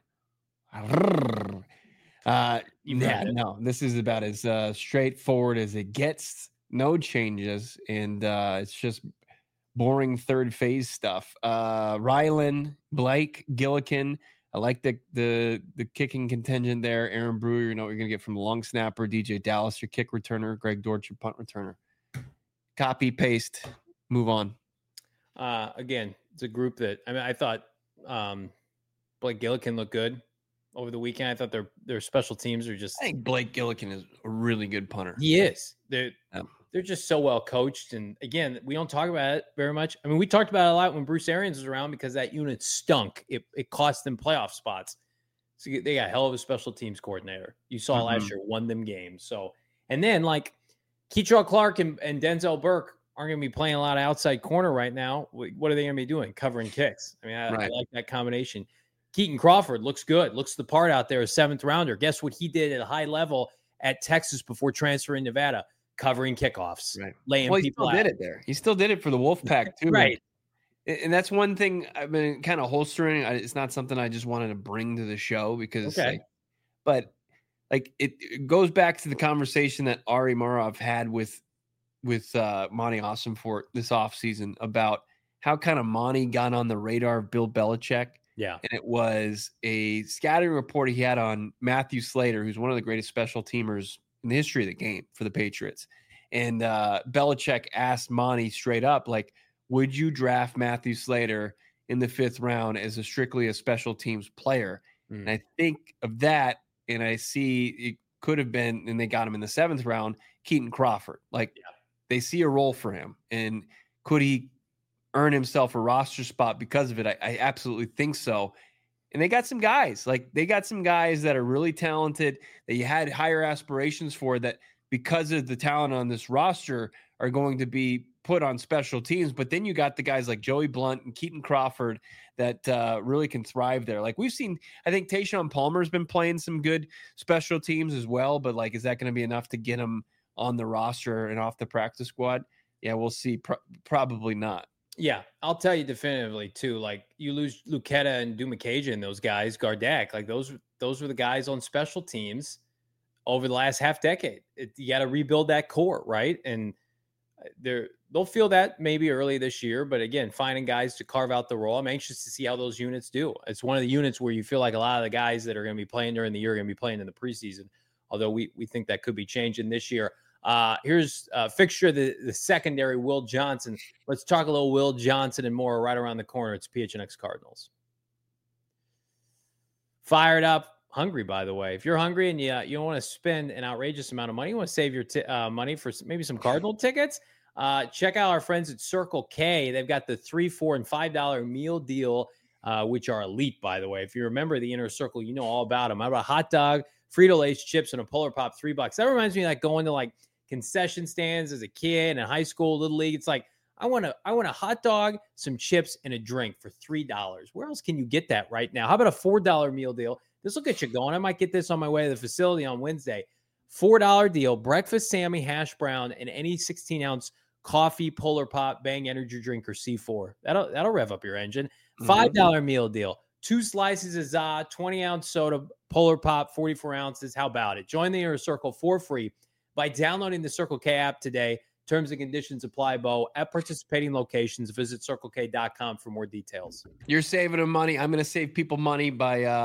No, this is about as straightforward as it gets. No changes, and it's just boring third phase stuff. Rylan, Blake, Gillikin. I like the kicking contingent there. Aaron Brewer, you know what you're going to get from the long snapper. DJ Dallas, your kick returner. Greg Dortch, your punt returner. Copy, paste, move on. Again, it's a group that, I mean, I thought Blake Gillikin looked good over the weekend. I thought their special teams are just... I think Blake Gillikin is a really good punter. He is. They're just so well coached. And again, we don't talk about it very much. I mean, we talked about it a lot when Bruce Arians was around because that unit stunk. It cost them playoff spots. So they got a hell of a special teams coordinator. You saw last year, won them games. So, and then like Keitrell Clark and Denzel Burke aren't going to be playing a lot of outside corner right now. What are they going to be doing? Covering kicks. I mean, I like that combination. Keaton Crawford looks good. Looks the part out there, a 7th rounder. Guess what he did at a high level at Texas before transferring to Nevada? Covering kickoffs, laying people out. He still did it there. He still did it for the Wolfpack too. Right. And that's one thing I've been kind of holstering. It's not something I just wanted to bring to the show because, it goes back to the conversation that Ari Marov had with Monty Ossenfort this offseason about how kind of Monty got on the radar of Bill Belichick. Yeah. And it was a scouting report he had on Matthew Slater, who's one of the greatest special teamers in the history of the game for the Patriots. And Belichick asked Monty straight up, like, would you draft Matthew Slater in the 5th round as strictly a special teams player? And I think of that, and I see it could have been, and they got him in the 7th round, Keaton Crawford. Like, they see a role for him. And could he earn himself a roster spot because of it? I absolutely think so. And they got some guys. Like, they got some guys that are really talented that you had higher aspirations for that because of the talent on this roster are going to be put on special teams. But then you got the guys like Joey Blunt and Keaton Crawford that really can thrive there. Like we've seen, I think Tayshaun Palmer's been playing some good special teams as well. But like, is that going to be enough to get him on the roster and off the practice squad? Yeah, we'll see. Probably not. Yeah, I'll tell you definitively too. Like you lose Lucetta and Dumakaja and those guys, Gardak, like those were the guys on special teams over the last half decade. You got to rebuild that core, right? And they'll feel that maybe early this year, but again, finding guys to carve out the role. I'm anxious to see how those units do. It's one of the units where you feel like a lot of the guys that are going to be playing during the year are going to be playing in the preseason. Although we think that could be changing this year. Here's a fixture, the secondary, Will Johnson. Let's talk a little Will Johnson and more right around the corner. It's PHNX Cardinals. Fired up, hungry, by the way. If you're hungry and you don't want to spend an outrageous amount of money, you want to save your money for maybe some Cardinal tickets, check out our friends at Circle K. They've got the $3, $4, and $5 meal deal, which are elite, by the way. If you remember the Inner Circle, you know all about them. How about a hot dog, Frito-Lay's chips, and a Polar Pop, $3? That reminds me of like going to like concession stands as a kid in high school, little league. It's like, I want a hot dog, some chips, and a drink for $3. Where else can you get that right now? How about a $4 meal deal? This will get you going. I might get this on my way to the facility on Wednesday. $4 deal, breakfast Sammy, hash brown, and any 16-ounce coffee, Polar Pop, Bang energy drink, or C4. That'll rev up your engine. $5 meal deal. 2 slices of ZA, 20-ounce soda, Polar Pop, 44 ounces. How about it? Join the Inner Circle for free by downloading the Circle K app today. Terms and conditions apply, Bo. At participating locations, visit CircleK.com for more details. You're saving them money. I'm going to save people money by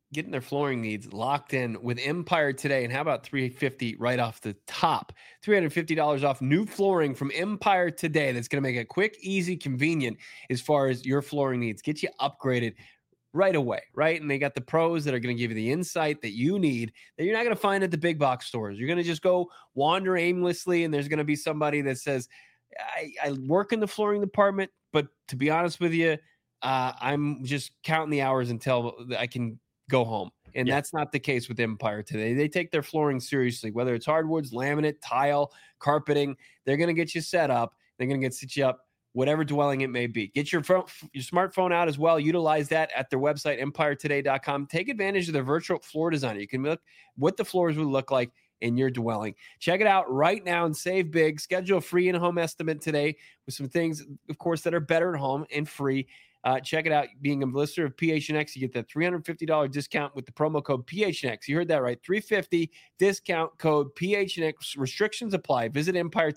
getting their flooring needs locked in with Empire today. And how about $350 right off the top? $350 off new flooring from Empire today. That's going to make it quick, easy, convenient as far as your flooring needs. Get you upgraded right away, right? And they got the pros that are going to give you the insight that you need that you're not going to find at the big box stores. You're going to just go wander aimlessly, and there's going to be somebody that says, I work in the flooring department, but to be honest with you, I'm just counting the hours until I can go home. And that's not the case with Empire today. They take their flooring seriously, whether it's hardwoods, laminate, tile, carpeting. They're going to get you set up. They're going to set you up, whatever dwelling it may be. Get your smartphone out as well. Utilize that at their website, empiretoday.com. Take advantage of their virtual floor designer. You can look what the floors would look like in your dwelling. Check it out right now and save big. Schedule a free in-home estimate today with some things, of course, that are better at home and free. Check it out. Being a listener of PHNX, you get that $350 discount with the promo code PHNX. You heard that right. $350 discount code PHNX. Restrictions apply. Visit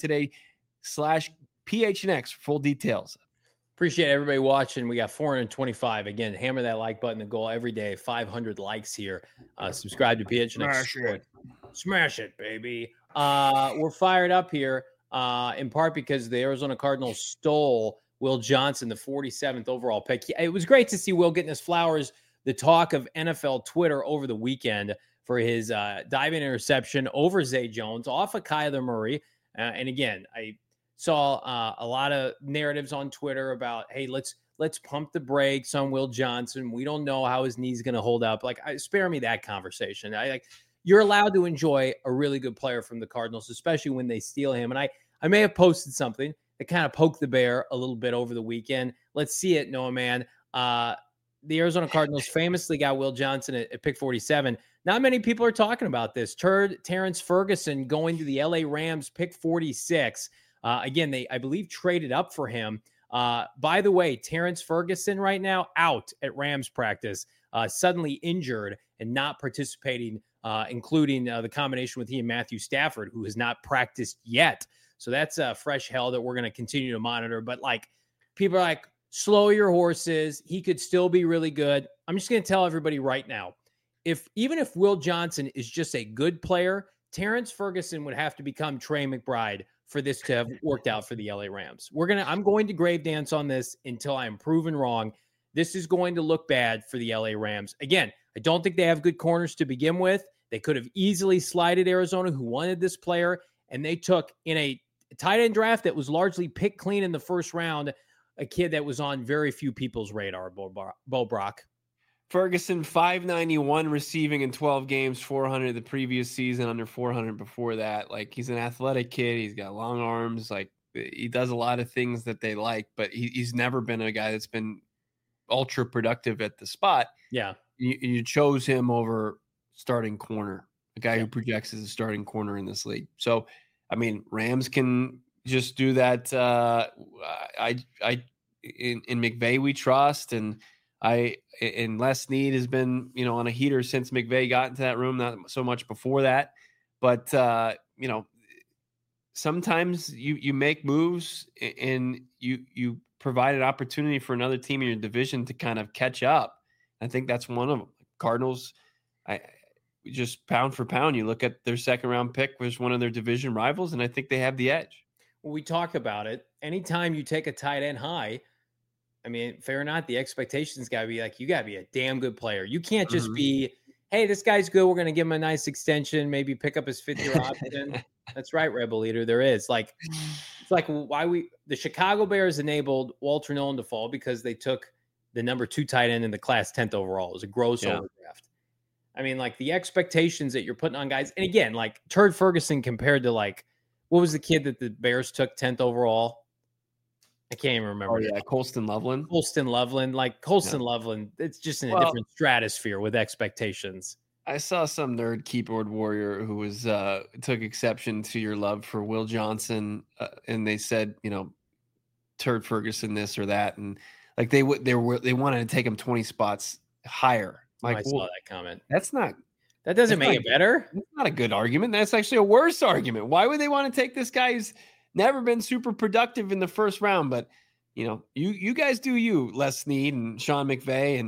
EmpireToday/PHNX for full details. Appreciate everybody watching. We got 425. Again, hammer that like button. The goal every day, 500 likes here. Subscribe to PHNX. Smash it, baby. We're fired up here in part because the Arizona Cardinals stole Will Johnson, the 47th overall pick. It was great to see Will getting his flowers, the talk of NFL Twitter over the weekend for his diving interception over Zay Jones off of Kyler Murray. And again, I saw a lot of narratives on Twitter about, hey, let's pump the brakes on Will Johnson. We don't know how his knee's going to hold up. Spare me that conversation. You're allowed to enjoy a really good player from the Cardinals, especially when they steal him. And I may have posted something that kind of poked the bear a little bit over the weekend. Let's see it, Noah, man. The Arizona Cardinals famously got Will Johnson at pick 47. Not many people are talking about this. Terrence Ferguson going to the LA Rams, pick 46. Again, they, I believe, traded up for him. By the way, Terrence Ferguson right now out at Rams practice, suddenly injured and not participating, including the combination with he and Matthew Stafford, who has not practiced yet. So that's fresh hell that we're going to continue to monitor. But people are like, slow your horses. He could still be really good. I'm just going to tell everybody right now, even if Will Johnson is just a good player, Terrence Ferguson would have to become Trey McBride for this to have worked out for the LA Rams. I'm going to grave dance on this until I am proven wrong. This is going to look bad for the LA Rams. Again, I don't think they have good corners to begin with. They could have easily slided Arizona, who wanted this player, and they took in a tight end draft that was largely picked clean in the first round, a kid that was on very few people's radar, Bo Brock. Ferguson, 591 receiving in 12 games, 400 the previous season, under 400 before that. He's an athletic kid. He's got long arms. He does a lot of things that they like, but he's never been a guy that's been ultra productive at the spot. Yeah. You chose him over starting corner, a guy who projects as a starting corner in this league. So, Rams can just do that. In McVay we trust, and Les Snead has been, on a heater since McVay got into that room, not so much before that. But, sometimes you make moves and you provide an opportunity for another team in your division to kind of catch up. I think that's one of them. Cardinals, just pound for pound, you look at their second round pick was one of their division rivals, and I think they have the edge. Well, we talk about it. Anytime you take a tight end high, fair or not, the expectations got to be you got to be a damn good player. You can't just be, hey, this guy's good. We're going to give him a nice extension, maybe pick up his fifth-year option. That's right, Rebel Leader. There is. The Chicago Bears enabled Walter Nolan to fall because they took the number 2 tight end in the class 10th overall. It was a gross overdraft. The expectations that you're putting on guys. And again, Turd Ferguson compared to what was the kid that the Bears took 10th overall? I can't even remember. Oh, yeah, Colston Loveland. Loveland, it's just in a different stratosphere with expectations. I saw some nerd keyboard warrior who was took exception to your love for Will Johnson, and they said, Turd Ferguson this or that, and they wanted to take him 20 spots higher. I saw that comment. That doesn't make it better. That's not a good argument. That's actually a worse argument. Why would they want to take this guy who's never been super productive in the first round? But you guys do you, Les Snead and Sean McVay, and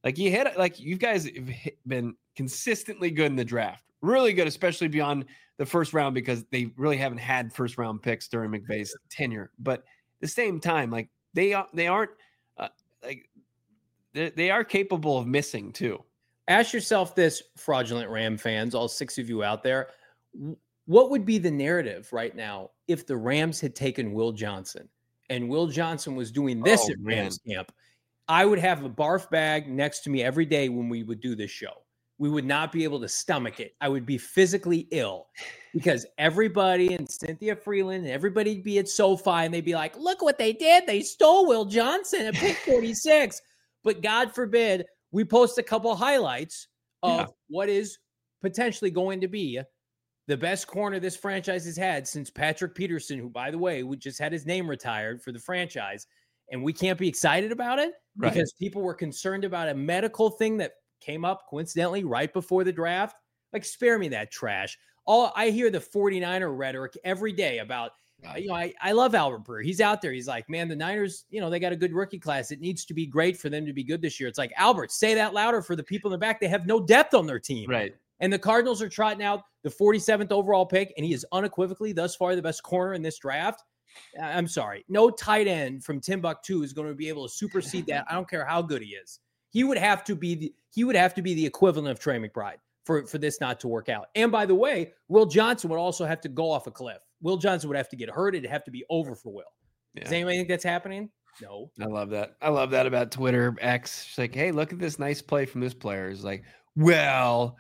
Like you guys have been consistently good in the draft, really good, especially beyond the first round, because they really haven't had first round picks during McVay's tenure. But at the same time, like they aren't like they are capable of missing too. Ask yourself this, fraudulent Ram fans, all 6 of you out there, what would be the narrative right now if the Rams had taken Will Johnson and Will Johnson was doing this at Rams camp? I would have a barf bag next to me every day when we would do this show. We would not be able to stomach it. I would be physically ill because everybody and Cynthia Freeland and everybody'd be at SoFi and they'd be like, look what they did. They stole Will Johnson at pick 46. But God forbid we post a couple highlights of what is potentially going to be the best corner this franchise has had since Patrick Peterson, who, by the way, we just had his name retired for the franchise. And we can't be excited about it because people were concerned about a medical thing that came up coincidentally right before the draft. Like, spare me that trash. I hear the 49er rhetoric every day about, I love Albert Breer. He's out there. He's like, man, the Niners, they got a good rookie class. It needs to be great for them to be good this year. It's like, Albert, say that louder for the people in the back. They have no depth on their team. Right. And the Cardinals are trotting out the 47th overall pick, and he is unequivocally thus far the best corner in this draft. I'm sorry. No tight end from Timbuktu is going to be able to supersede that. I don't care how good he is. He would have to be the equivalent of Trey McBride for this not to work out. And by the way, Will Johnson would also have to go off a cliff. Will Johnson would have to get hurt. It'd have to be over for Will. Yeah. Does anybody think that's happening? No. I love that. I love that about Twitter X. It's like, hey, look at this nice play from this player. It's like, well,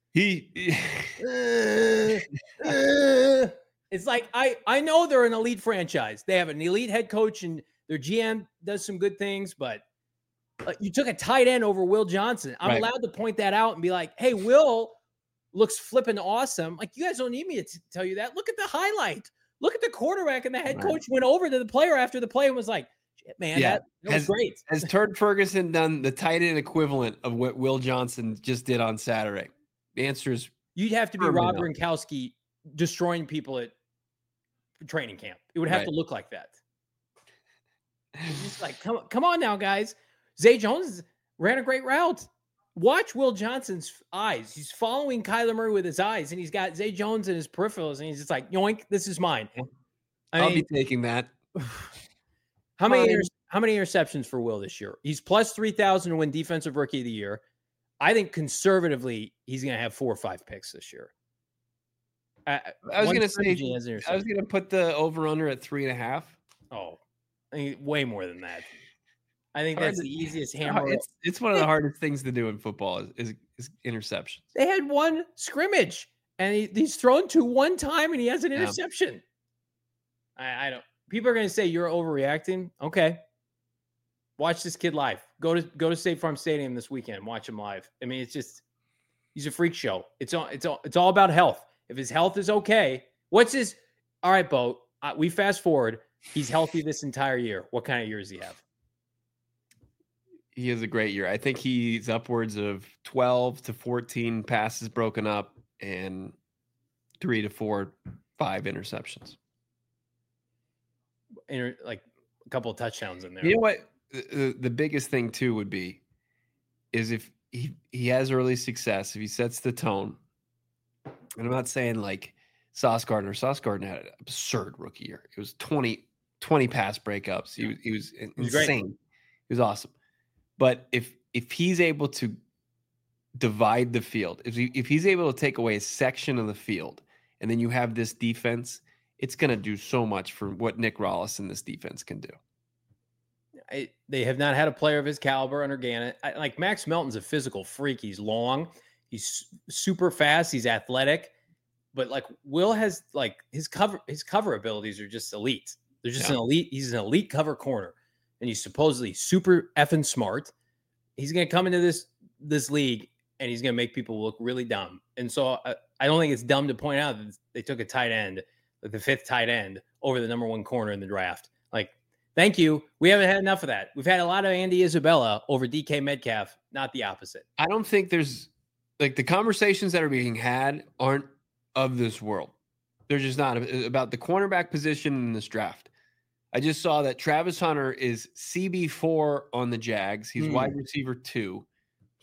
it's like, I know they're an elite franchise. They have an elite head coach and their GM does some good things, but you took a tight end over Will Johnson. I'm allowed to point that out and be like, hey, Will looks flipping awesome. Like, you guys don't need me to tell you that. Look at the highlight. Look at the quarterback, and the head coach went over to the player after the play and was like, shit, man, that was great. Has Turd Ferguson done the tight end equivalent of what Will Johnson just did on Saturday? The answer is you'd have to be Rob Gronkowski destroying people at training camp. It would have to look like that. It's just like, come on now, guys. Zay Jones ran a great route. Watch Will Johnson's eyes. He's following Kyler Murray with his eyes, and he's got Zay Jones in his peripherals, and he's just like, yoink, this is mine. I'll be taking that. How many interceptions for Will this year? He's plus 3,000 to win Defensive Rookie of the Year. I think conservatively, he's going to have 4 or 5 picks this year. I was going to put the over-under at 3.5. Oh, I mean, way more than that. I think that's the easiest hammer. It's one of the hardest things to do in football is interceptions. They had one scrimmage, and he's thrown to one time, and he has an interception. I don't. People are going to say you're overreacting. Okay, watch this kid live. Go to State Farm Stadium this weekend. Watch him live. I mean, he's a freak show. It's all about health. If his health is okay, what's his? All right, Bo. We fast forward. He's healthy this entire year. What kind of year does he have? He has a great year. I think he's upwards of 12 to 14 passes broken up and 3 to 4, 5 interceptions. Like a couple of touchdowns in there. You know what? The biggest thing too would be is if he has early success, if he sets the tone. And I'm not saying like Sauce Gardner. Sauce Gardner had an absurd rookie year. It was 20 pass breakups. He was insane. Great. He was awesome. But if he's able to divide the field, if he's able to take away a section of the field, and then you have this defense, it's going to do so much for what Nick Rollis and this defense can do. They have not had a player of his caliber under Gannon. Like Max Melton's a physical freak. He's long. He's super fast. He's athletic. But like Will has like his cover abilities are just elite. They're just an elite. He's an elite cover corner. And he's supposedly super effing smart. He's going to come into this league, and he's going to make people look really dumb. And so I don't think it's dumb to point out that they took a tight end, like the 5th tight end, over the number 1 corner in the draft. Like, thank you. We haven't had enough of that. We've had a lot of Andy Isabella over DK Metcalf, not the opposite. I don't think there's like the conversations that are being had aren't of this world. They're just not about the cornerback position in this draft. I just saw that Travis Hunter is CB4 on the Jags. He's wide receiver 2.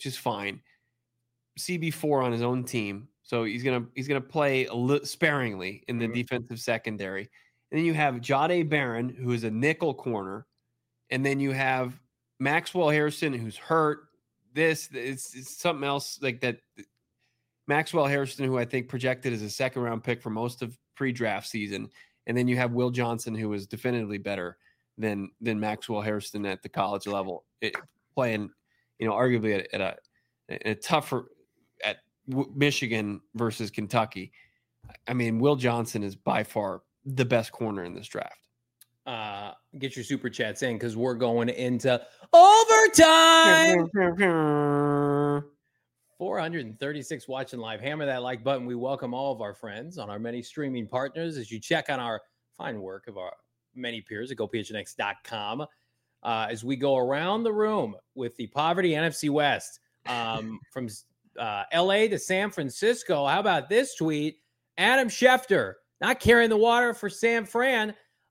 which is fine. CB4 on his own team, so he's gonna play sparingly in the defensive secondary. And then you have Jahdae Barron, who is a nickel corner, and then you have Maxwell Harrison, who's hurt. It's something else like that. Maxwell Harrison, who I think projected as a second-round pick for most of pre-draft season, and then you have Will Johnson, who is definitively better than Maxwell Harrison at the college level, playing, arguably at a tougher at Michigan versus Kentucky. I mean, Will Johnson is by far the best corner in this draft. Get your super chats in because we're going into overtime. 436 watching live. Hammer that like button. We welcome all of our friends on our many streaming partners as you check on our fine work of our many peers at GoPHNX.com. As we go around the room with the Poverty NFC West, from LA to San Francisco. How about this tweet? Adam Schefter, not carrying the water for San Fran.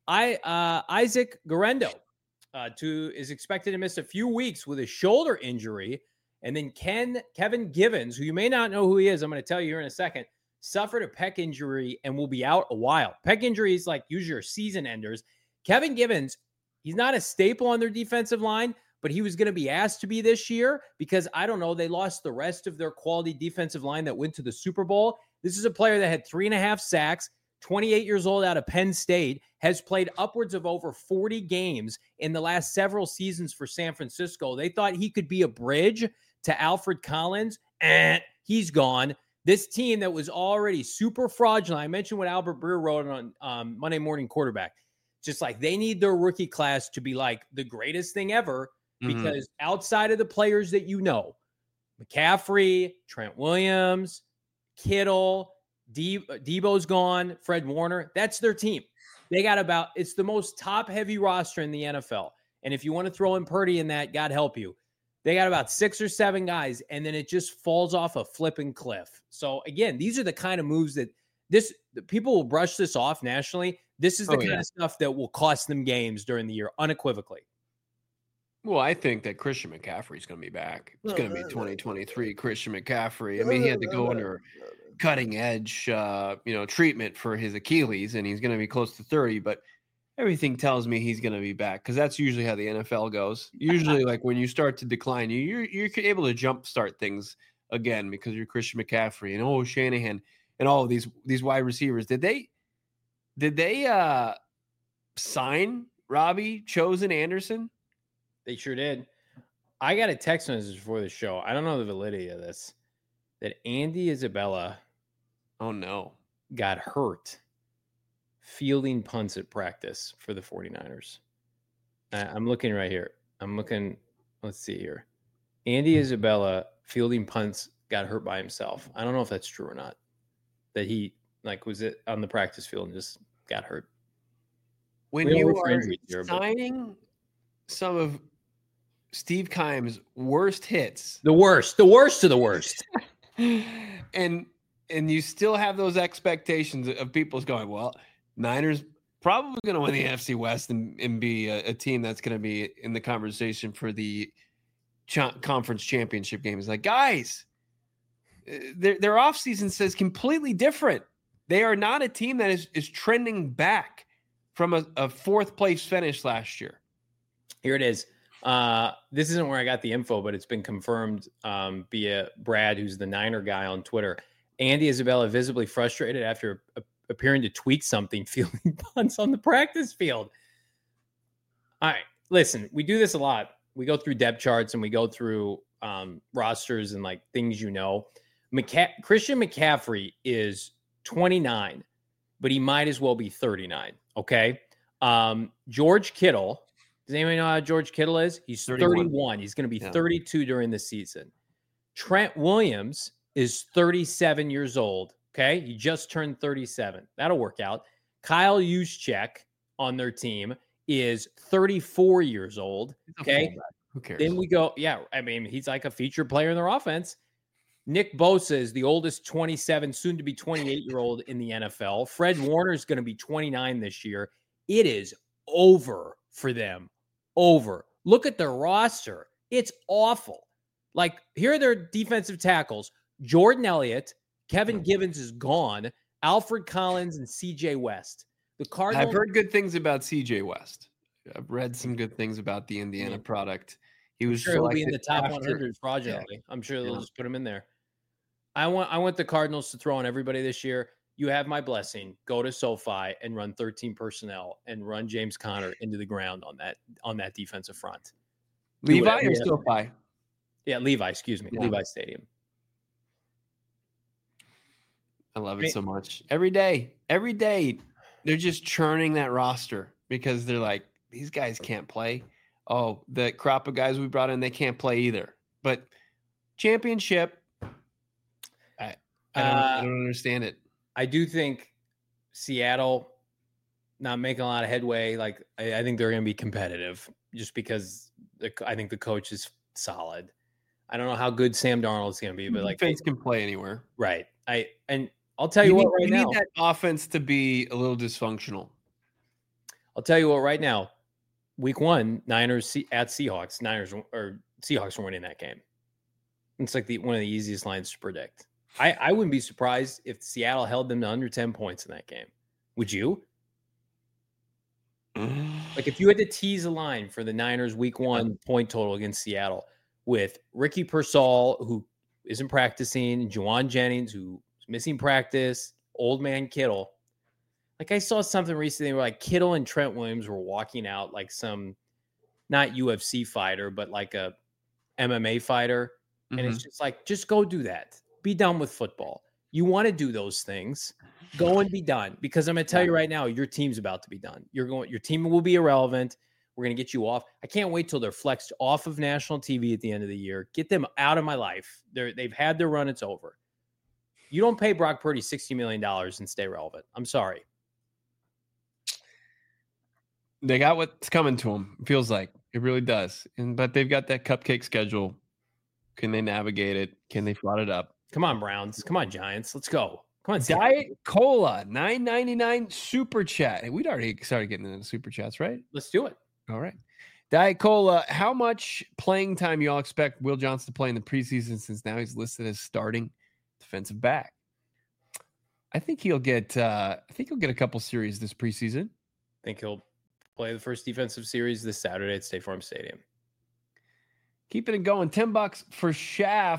Isaac Guerrero is expected to miss a few weeks with a shoulder injury. And then Kevin Givens, who you may not know who he is, I'm going to tell you here in a second, suffered a pec injury and will be out a while. Pec injuries, like, usually are season enders. Kevin Givens, he's not a staple on their defensive line, but he was going to be asked to be this year because, I don't know, they lost the rest of their quality defensive line that went to the Super Bowl. This is a player that had 3.5 sacks, 28 years old, out of Penn State, has played upwards of over 40 games in the last several seasons for San Francisco. They thought he could be a bridge to Alfred Collins, and he's gone. This team that was already super fraudulent. I mentioned what Albert Breer wrote on Monday Morning Quarterback. Just like they need their rookie class to be like the greatest thing ever, because outside of the players that McCaffrey, Trent Williams, Kittle, Debo's gone, Fred Warner, that's their team. They got it's the most top-heavy roster in the NFL. And if you want to throw in Purdy in that, God help you. They got about 6 or 7 guys, and then it just falls off a flipping cliff. So, again, these are the kind of moves that people will brush this off nationally. This is the kind of stuff that will cost them games during the year, unequivocally. Well, I think that Christian McCaffrey is going to be back. It's going to be 2023 Christian McCaffrey. I mean, he had to go under cutting-edge, treatment for his Achilles, and he's going to be close to 30, but everything tells me he's going to be back because that's usually how the NFL goes. Usually, like, when you start to decline, you're able to jumpstart things again because you're Christian McCaffrey and Shanahan and all of these wide receivers. Did they sign Robbie Chosen Anderson? They sure did. I got a text message before the show. I don't know the validity of this. That Andy Isabella, got hurt fielding punts at practice for the 49ers. I'm looking right here. Let's see here. Andy Isabella fielding punts got hurt by himself. I don't know if that's true or not. That he was it on the practice field and just got hurt. When you are signing some of Steve Keim's worst hits, the worst of the worst, and you still have those expectations of people's going, well, Niners probably going to win the NFC West and be a team that's going to be in the conversation for the conference championship game. It's like, guys, their offseason says completely different. They are not a team that is trending back from a fourth place finish last year. Here it is. This isn't where I got the info, but it's been confirmed via Brad, who's the Niner guy on Twitter. Andy Isabella visibly frustrated after appearing to tweak something, fielding punts on the practice field. All right, listen, we do this a lot. We go through depth charts and we go through rosters and things. Christian McCaffrey is 29, but he might as well be 39. Okay. George Kittle. Does anybody know how George Kittle is? He's 31. He's going to be 32 during the season. Trent Williams is 37 years old. Okay. He just turned 37. That'll work out. Kyle Juszczyk on their team is 34 years old. Okay. Who cares? Then we go. Yeah. I mean, he's like a featured player in their offense. Nick Bosa is the oldest 27, soon to be 28-year-old in the NFL. Fred Warner is going to be 29 this year. It is over for them. Over. Look at their roster. It's awful. Like, here are their defensive tackles. Jordan Elliott, Kevin Givens is gone, Alfred Collins, and CJ West. The Cardinals. I've heard good things about CJ West. I've read some good things about the Indiana product. He was sure he'll be in the top after, 100 fraudulently. Yeah. I'm sure they'll just put him in there. I want the Cardinals to throw on everybody this year. You have my blessing. Go to SoFi and run 13 personnel and run James Conner into the ground on that defensive front. Levi or SoFi? Yeah, Levi. Excuse me, Levi Stadium. I love it so much. Every day, they're just churning that roster because they're like, these guys can't play. Oh, the crop of guys we brought in, they can't play either. But championship, I don't understand it. I do think Seattle not making a lot of headway. Like, I think they're going to be competitive just because I think the coach is solid. I don't know how good Sam Darnold is going to be, but like, defense can play anywhere, right? I'll tell you what right now. You need that offense to be a little dysfunctional. I'll tell you what right now. Week 1, Niners at Seahawks. Seahawks were winning that game. It's like one of the easiest lines to predict. I wouldn't be surprised if Seattle held them to under 10 points in that game. Would you? Like, if you had to tease a line for the Niners Week 1 point total against Seattle with Ricky Pearsall, who isn't practicing, Juwan Jennings, who's missing practice, old man Kittle. Like, I saw something recently where like Kittle and Trent Williams were walking out like some, not UFC fighter, but like a MMA fighter. Mm-hmm. And it's just like, just go do that. Be done with football. You want to do those things, go and be done. Because I'm going to tell you right now, your team's about to be done. Your team will be irrelevant. We're going to get you off. I can't wait till they're flexed off of national TV at the end of the year. Get them out of my life. They've had their run. It's over. You don't pay Brock Purdy $60 million and stay relevant. I'm sorry. They got what's coming to them. It feels like it really does. But they've got that cupcake schedule. Can they navigate it? Can they flood it up? Come on, Browns. Come on, Giants. Let's go. Come on, Diet Cola, $9.99 super chat. We'd already started getting into the super chats, right? Let's do it. All right. Diet Cola, how much playing time y'all expect Will Johnson to play in the preseason since now he's listed as starting defensive back? I think he'll get a couple series this preseason. I think he'll play the first defensive series this Saturday at State Farm Stadium. Keeping it going. $10 for Schaff.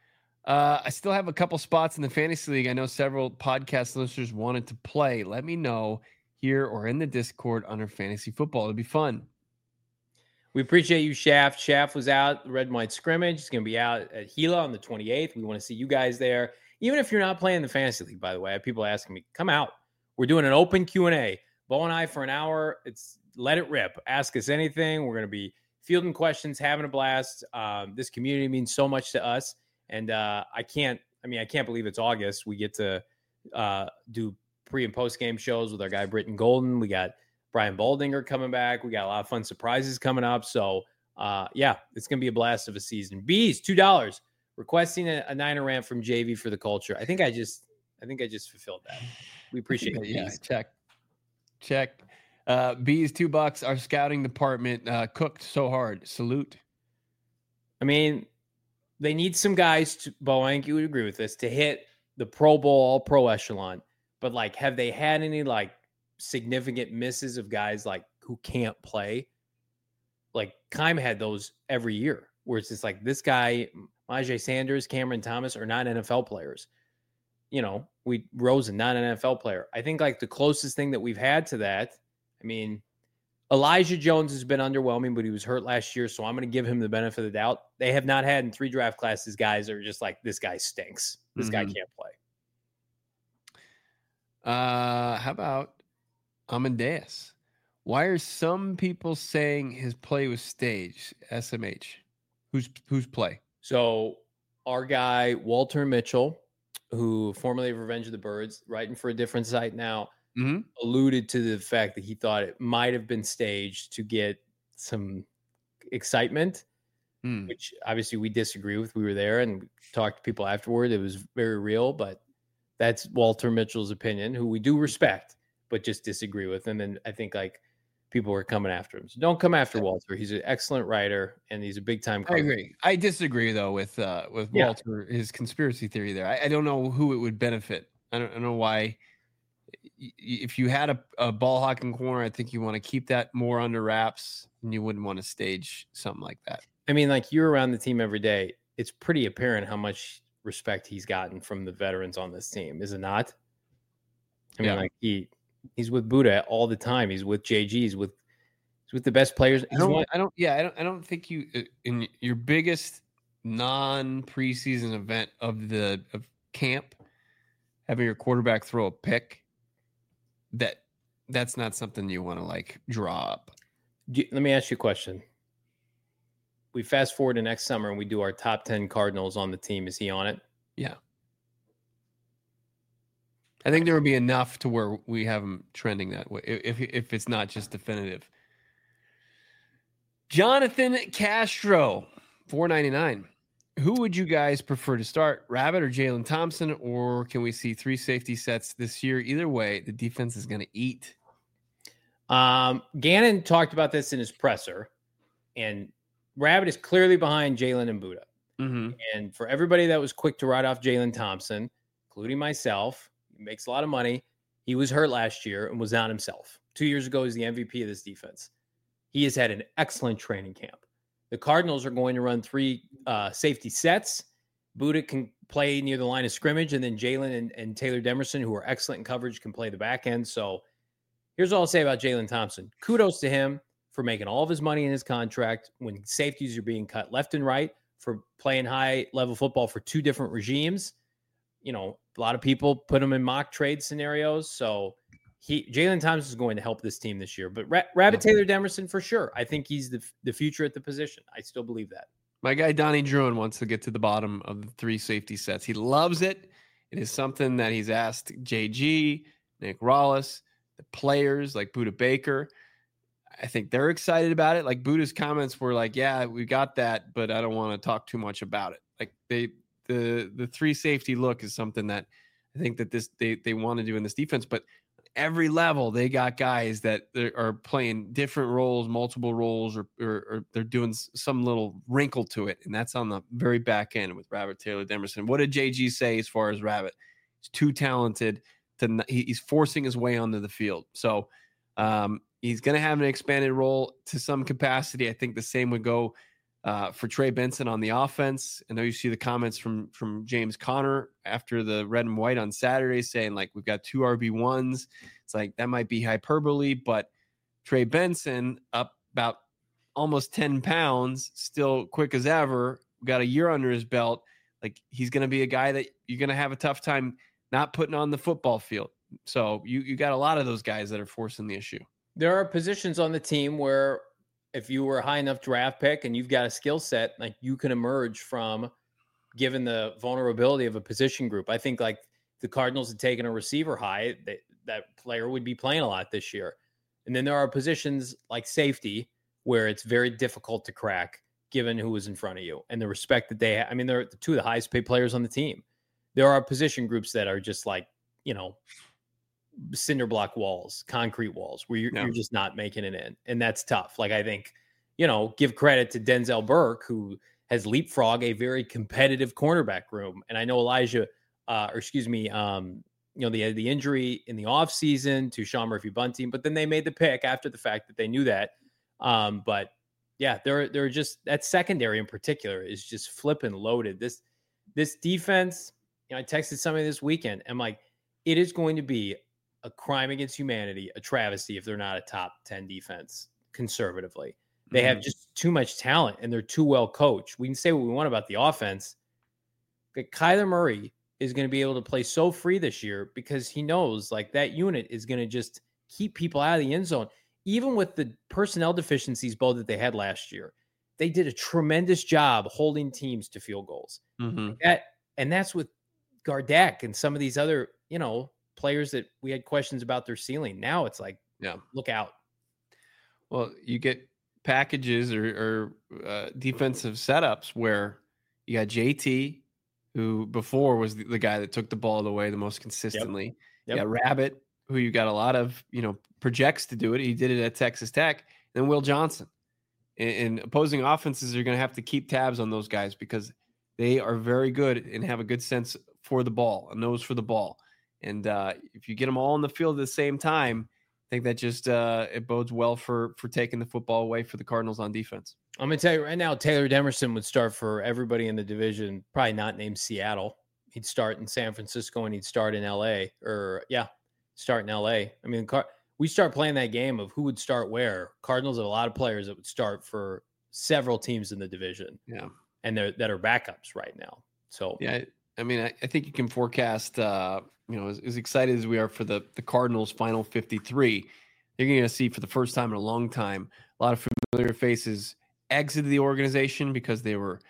I still have a couple spots in the fantasy league. I know several podcast listeners wanted to play. Let me know here or in the Discord under fantasy football. It'll be fun. We appreciate you, Schaff. Schaff was out Red and White scrimmage. He's going to be out at Gila on the 28th. We want to see you guys there. Even if you're not playing the fantasy league, by the way, I have people asking me, come out. We're doing an open Q&A. Bo and I for an hour. It's let it rip. Ask us anything. We're going to be fielding questions, having a blast. This community means so much to us. And I can't believe it's August. We get to do pre and post game shows with our guy Britton Golden. We got Brian Baldinger coming back. We got a lot of fun surprises coming up. So it's gonna be a blast of a season. Bees, $2 requesting a Niner rant from JV for the culture. I think I just fulfilled that. We appreciate it. Yeah, check. Bees, $2. Our scouting department cooked so hard. Salute. I mean, they need some guys to, Bo, I think you would agree with this, to hit the Pro Bowl, all pro echelon. But like, have they had any like significant misses of guys like who can't play? Like Keim had those every year where it's just like this guy, Myjai Sanders, Cameron Thomas are not NFL players. You know, Rosen, not an NFL player. I think like the closest thing that we've had to that, I mean, Elijah Jones has been underwhelming, but he was hurt last year, so I'm going to give him the benefit of the doubt. They have not had in 3 draft classes guys that are just like, this guy stinks. This guy can't play. How about Amadeus? Why are some people saying his play was staged? SMH. Who's play? So our guy, Walter Mitchell, who formerly of Revenge of the Birds, writing for a different site now, alluded to the fact that he thought it might have been staged to get some excitement, which obviously we disagree with. We were there and talked to people afterward. It was very real, but that's Walter Mitchell's opinion, who we do respect, but just disagree with. And then I think like people were coming after him. So don't come after Walter. He's an excellent writer, and he's a big time. I agree. I disagree though with Walter, his conspiracy theory there. I don't know who it would benefit. I don't know why. If you had a ball hawking corner, I think you want to keep that more under wraps, and you wouldn't want to stage something like that. I mean, like, you're around the team every day. It's pretty apparent how much respect he's gotten from the veterans on this team, is it not? I mean, like, he's with Buddha all the time. He's with JG. He's with the best players. I don't think you in your biggest non-preseason event of camp, having your quarterback throw a pick, that's not something you want to like draw up. Let me ask you a question. We fast forward to next summer and we do our top 10 Cardinals on the team. Is he on it? Yeah. I think there would be enough to where we have him trending that way if it's not just definitive. Jonathan Castro, $4.99. Who would you guys prefer to start, Rabbit or Jalen Thompson, or can we see 3 safety sets this year? Either way, the defense is going to eat. Gannon talked about this in his presser, and Rabbit is clearly behind Jalen and Buddha. Mm-hmm. And for everybody that was quick to write off Jalen Thompson, including myself, he makes a lot of money. He was hurt last year and was not himself. 2 years ago, he's the MVP of this defense. He has had an excellent training camp. The Cardinals are going to run 3 safety sets. Buddha can play near the line of scrimmage, and then Jalen and Taylor Demerson, who are excellent in coverage, can play the back end. So here's all I'll say about Jalen Thompson. Kudos to him for making all of his money in his contract when safeties are being cut left and right, for playing high-level football for 2 different regimes. You know, a lot of people put him in mock trade scenarios. So Jalen Thompson is going to help this team this year. But Rabbit Taylor Demerson, for sure. I think he's the future at the position. I still believe that. My guy Donnie Druin wants to get to the bottom of the 3 safety sets. He loves it. It is something that he's asked JG, Nick Rollis, the players like Buddha Baker. I think they're excited about it. Like, Buddha's comments were like, yeah, we got that, but I don't want to talk too much about it. Like, the 3 safety look is something that I think that they want to do in this defense. But every level, they got guys that are playing different roles, multiple roles, or they're doing some little wrinkle to it. And that's on the very back end with Rabbit Taylor Demerson. What did JG say as far as Rabbit? He's too talented. He's forcing his way onto the field. So he's going to have an expanded role to some capacity. I think the same would go for Trey Benson on the offense. I know you see the comments from James Conner after the red and white on Saturday saying, like, we've got 2 RB1s. It's like, that might be hyperbole, but Trey Benson up about almost 10 pounds, still quick as ever, got a year under his belt. Like, he's going to be a guy that you're going to have a tough time not putting on the football field. So you got a lot of those guys that are forcing the issue. There are positions on the team where if you were a high enough draft pick and you've got a skill set, like, you can emerge from, given the vulnerability of a position group. I think, like, the Cardinals had taken a receiver high, that player would be playing a lot this year. And then there are positions like safety where it's very difficult to crack given who is in front of you and the respect that they have. I mean, they're 2 of the highest paid players on the team. There are position groups that are just like, you know, cinder block walls, concrete walls, where you're just not making it in. And that's tough. Like, I think, you know, give credit to Denzel Burke, who has leapfrogged a very competitive cornerback room. And I know Elijah, you know, the injury in the offseason to Sean Murphy-Bunting, but then they made the pick after the fact that they knew that. But yeah, they're just, that secondary in particular is just flipping loaded. This defense, you know, I texted somebody this weekend. I'm like, it is going to be a crime against humanity, a travesty if they're not a top 10 defense conservatively. They have just too much talent and they're too well coached. We can say what we want about the offense, but Kyler Murray is going to be able to play so free this year because he knows, like, that unit is going to just keep people out of the end zone. Even with the personnel deficiencies, both that they had last year, they did a tremendous job holding teams to field goals. Mm-hmm. And that's with Gardeck and some of these other, you know, players that we had questions about their ceiling. Now it's like, yeah, look out. Well, you get packages or defensive setups where you got JT, who before was the guy that took the ball away the most consistently. Yep. You got Rabbit, who you got a lot of, projects to do it. He did it at Texas Tech. And Will Johnson. And opposing offenses are going to have to keep tabs on those guys because they are very good and have a good sense for the ball, a nose for the ball. And if you get them all on the field at the same time, I think that just it bodes well for taking the football away for the Cardinals on defense. I'm going to tell you right now, Taylor Demerson would start for everybody in the division, probably not named Seattle. He'd start in San Francisco and he'd start in L.A. Start in L.A. I mean, we start playing that game of who would start where. Cardinals have a lot of players that would start for several teams in the division. Yeah. And that are backups right now. So, yeah, I mean, I think you can forecast, as excited as we are for the Cardinals' final 53, you're going to see for the first time in a long time a lot of familiar faces exited the organization because they were,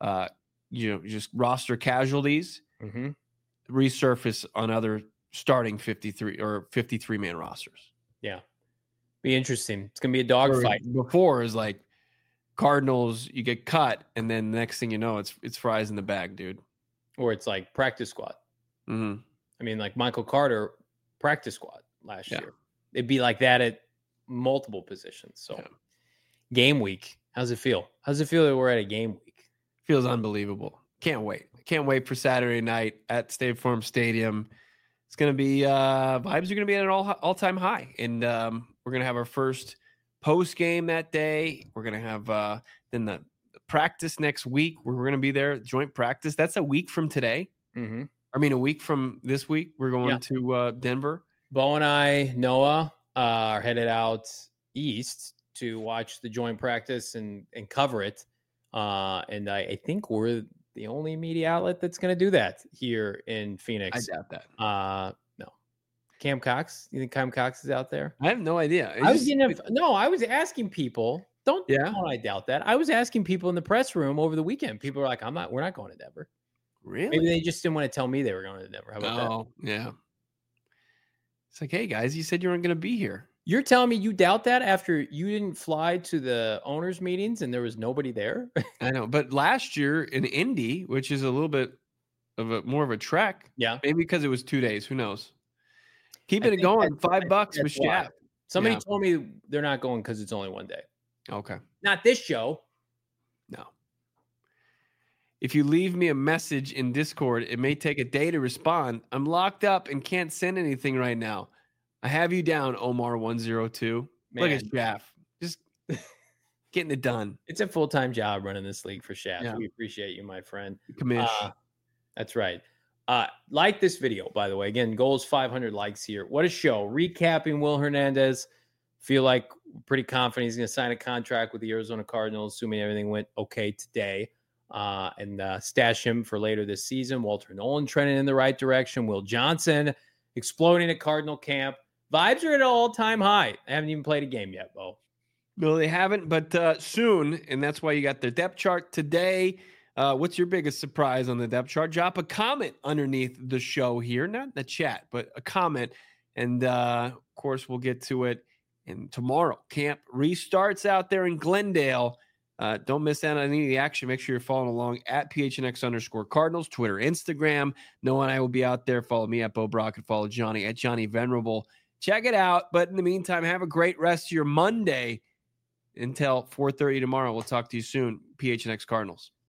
just roster casualties, resurface on other starting 53 or 53-man rosters. Yeah. Be interesting. It's going to be a dogfight. Before is like Cardinals, you get cut, and then the next thing you know, it's fries in the bag, dude. Or it's like practice squad. Mm-hmm. I mean, like Michael Carter, practice squad last year. It'd be like that at multiple positions. So, game week. How's it feel? How's it feel that we're at a game week? Feels unbelievable. Can't wait. Can't wait for Saturday night at State Farm Stadium. It's going to be vibes are going to be at an all-time high. And we're going to have our first post game that day. We're going to have then the practice next week. We're going to be there, joint practice. That's a week from today. Mm-hmm. I mean, a week from this week, we're going to Denver. Bo and I, Noah, are headed out east to watch the joint practice and cover it. And I think we're the only media outlet that's going to do that here in Phoenix. I doubt that. No. Cam Cox? You think Cam Cox is out there? I have no idea. I was asking people. Don't I doubt that. I was asking people in the press room over the weekend. People are like, we're not going to Denver. Really? Maybe they just didn't want to tell me they were going to Denver. How about that? Yeah. It's like, hey guys, you said you weren't going to be here. You're telling me you doubt that after you didn't fly to the owners' meetings and there was nobody there? I know, but last year in Indy, which is a little bit of more of a trek, maybe because it was 2 days. Who knows? Keeping it going, $5 with Shaq. Somebody told me they're not going because it's only 1 day. Okay, not this show. No. If you leave me a message in Discord, it may take a day to respond. I'm locked up and can't send anything right now. I have you down, Omar102. Look at Shaff. Just getting it done. It's a full-time job running this league for Shaff. Yeah. We appreciate you, my friend. Commish. That's right. Like this video, by the way. Again, goal is 500 likes here. What a show. Recapping Will Hernandez. Feel like pretty confident he's going to sign a contract with the Arizona Cardinals, assuming everything went okay today. And stash him for later this season. Walter Nolan trending in the right direction. Will Johnson exploding at Cardinal camp. Vibes are at an all-time high. I haven't even played a game yet, Bo. No, they haven't, but soon, and that's why you got their depth chart today. What's your biggest surprise on the depth chart? Drop a comment underneath the show here, not in the chat, but a comment, and of course, we'll get to it. And tomorrow, camp restarts out there in Glendale. Don't miss out on any of the action. Make sure you're following along at PHNX_Cardinals, Twitter, Instagram. Noah and I will be out there. Follow me at Bo Brock and follow Johnny at Johnny Venerable. Check it out. But in the meantime, have a great rest of your Monday until 4:30 tomorrow. We'll talk to you soon. PHNX Cardinals.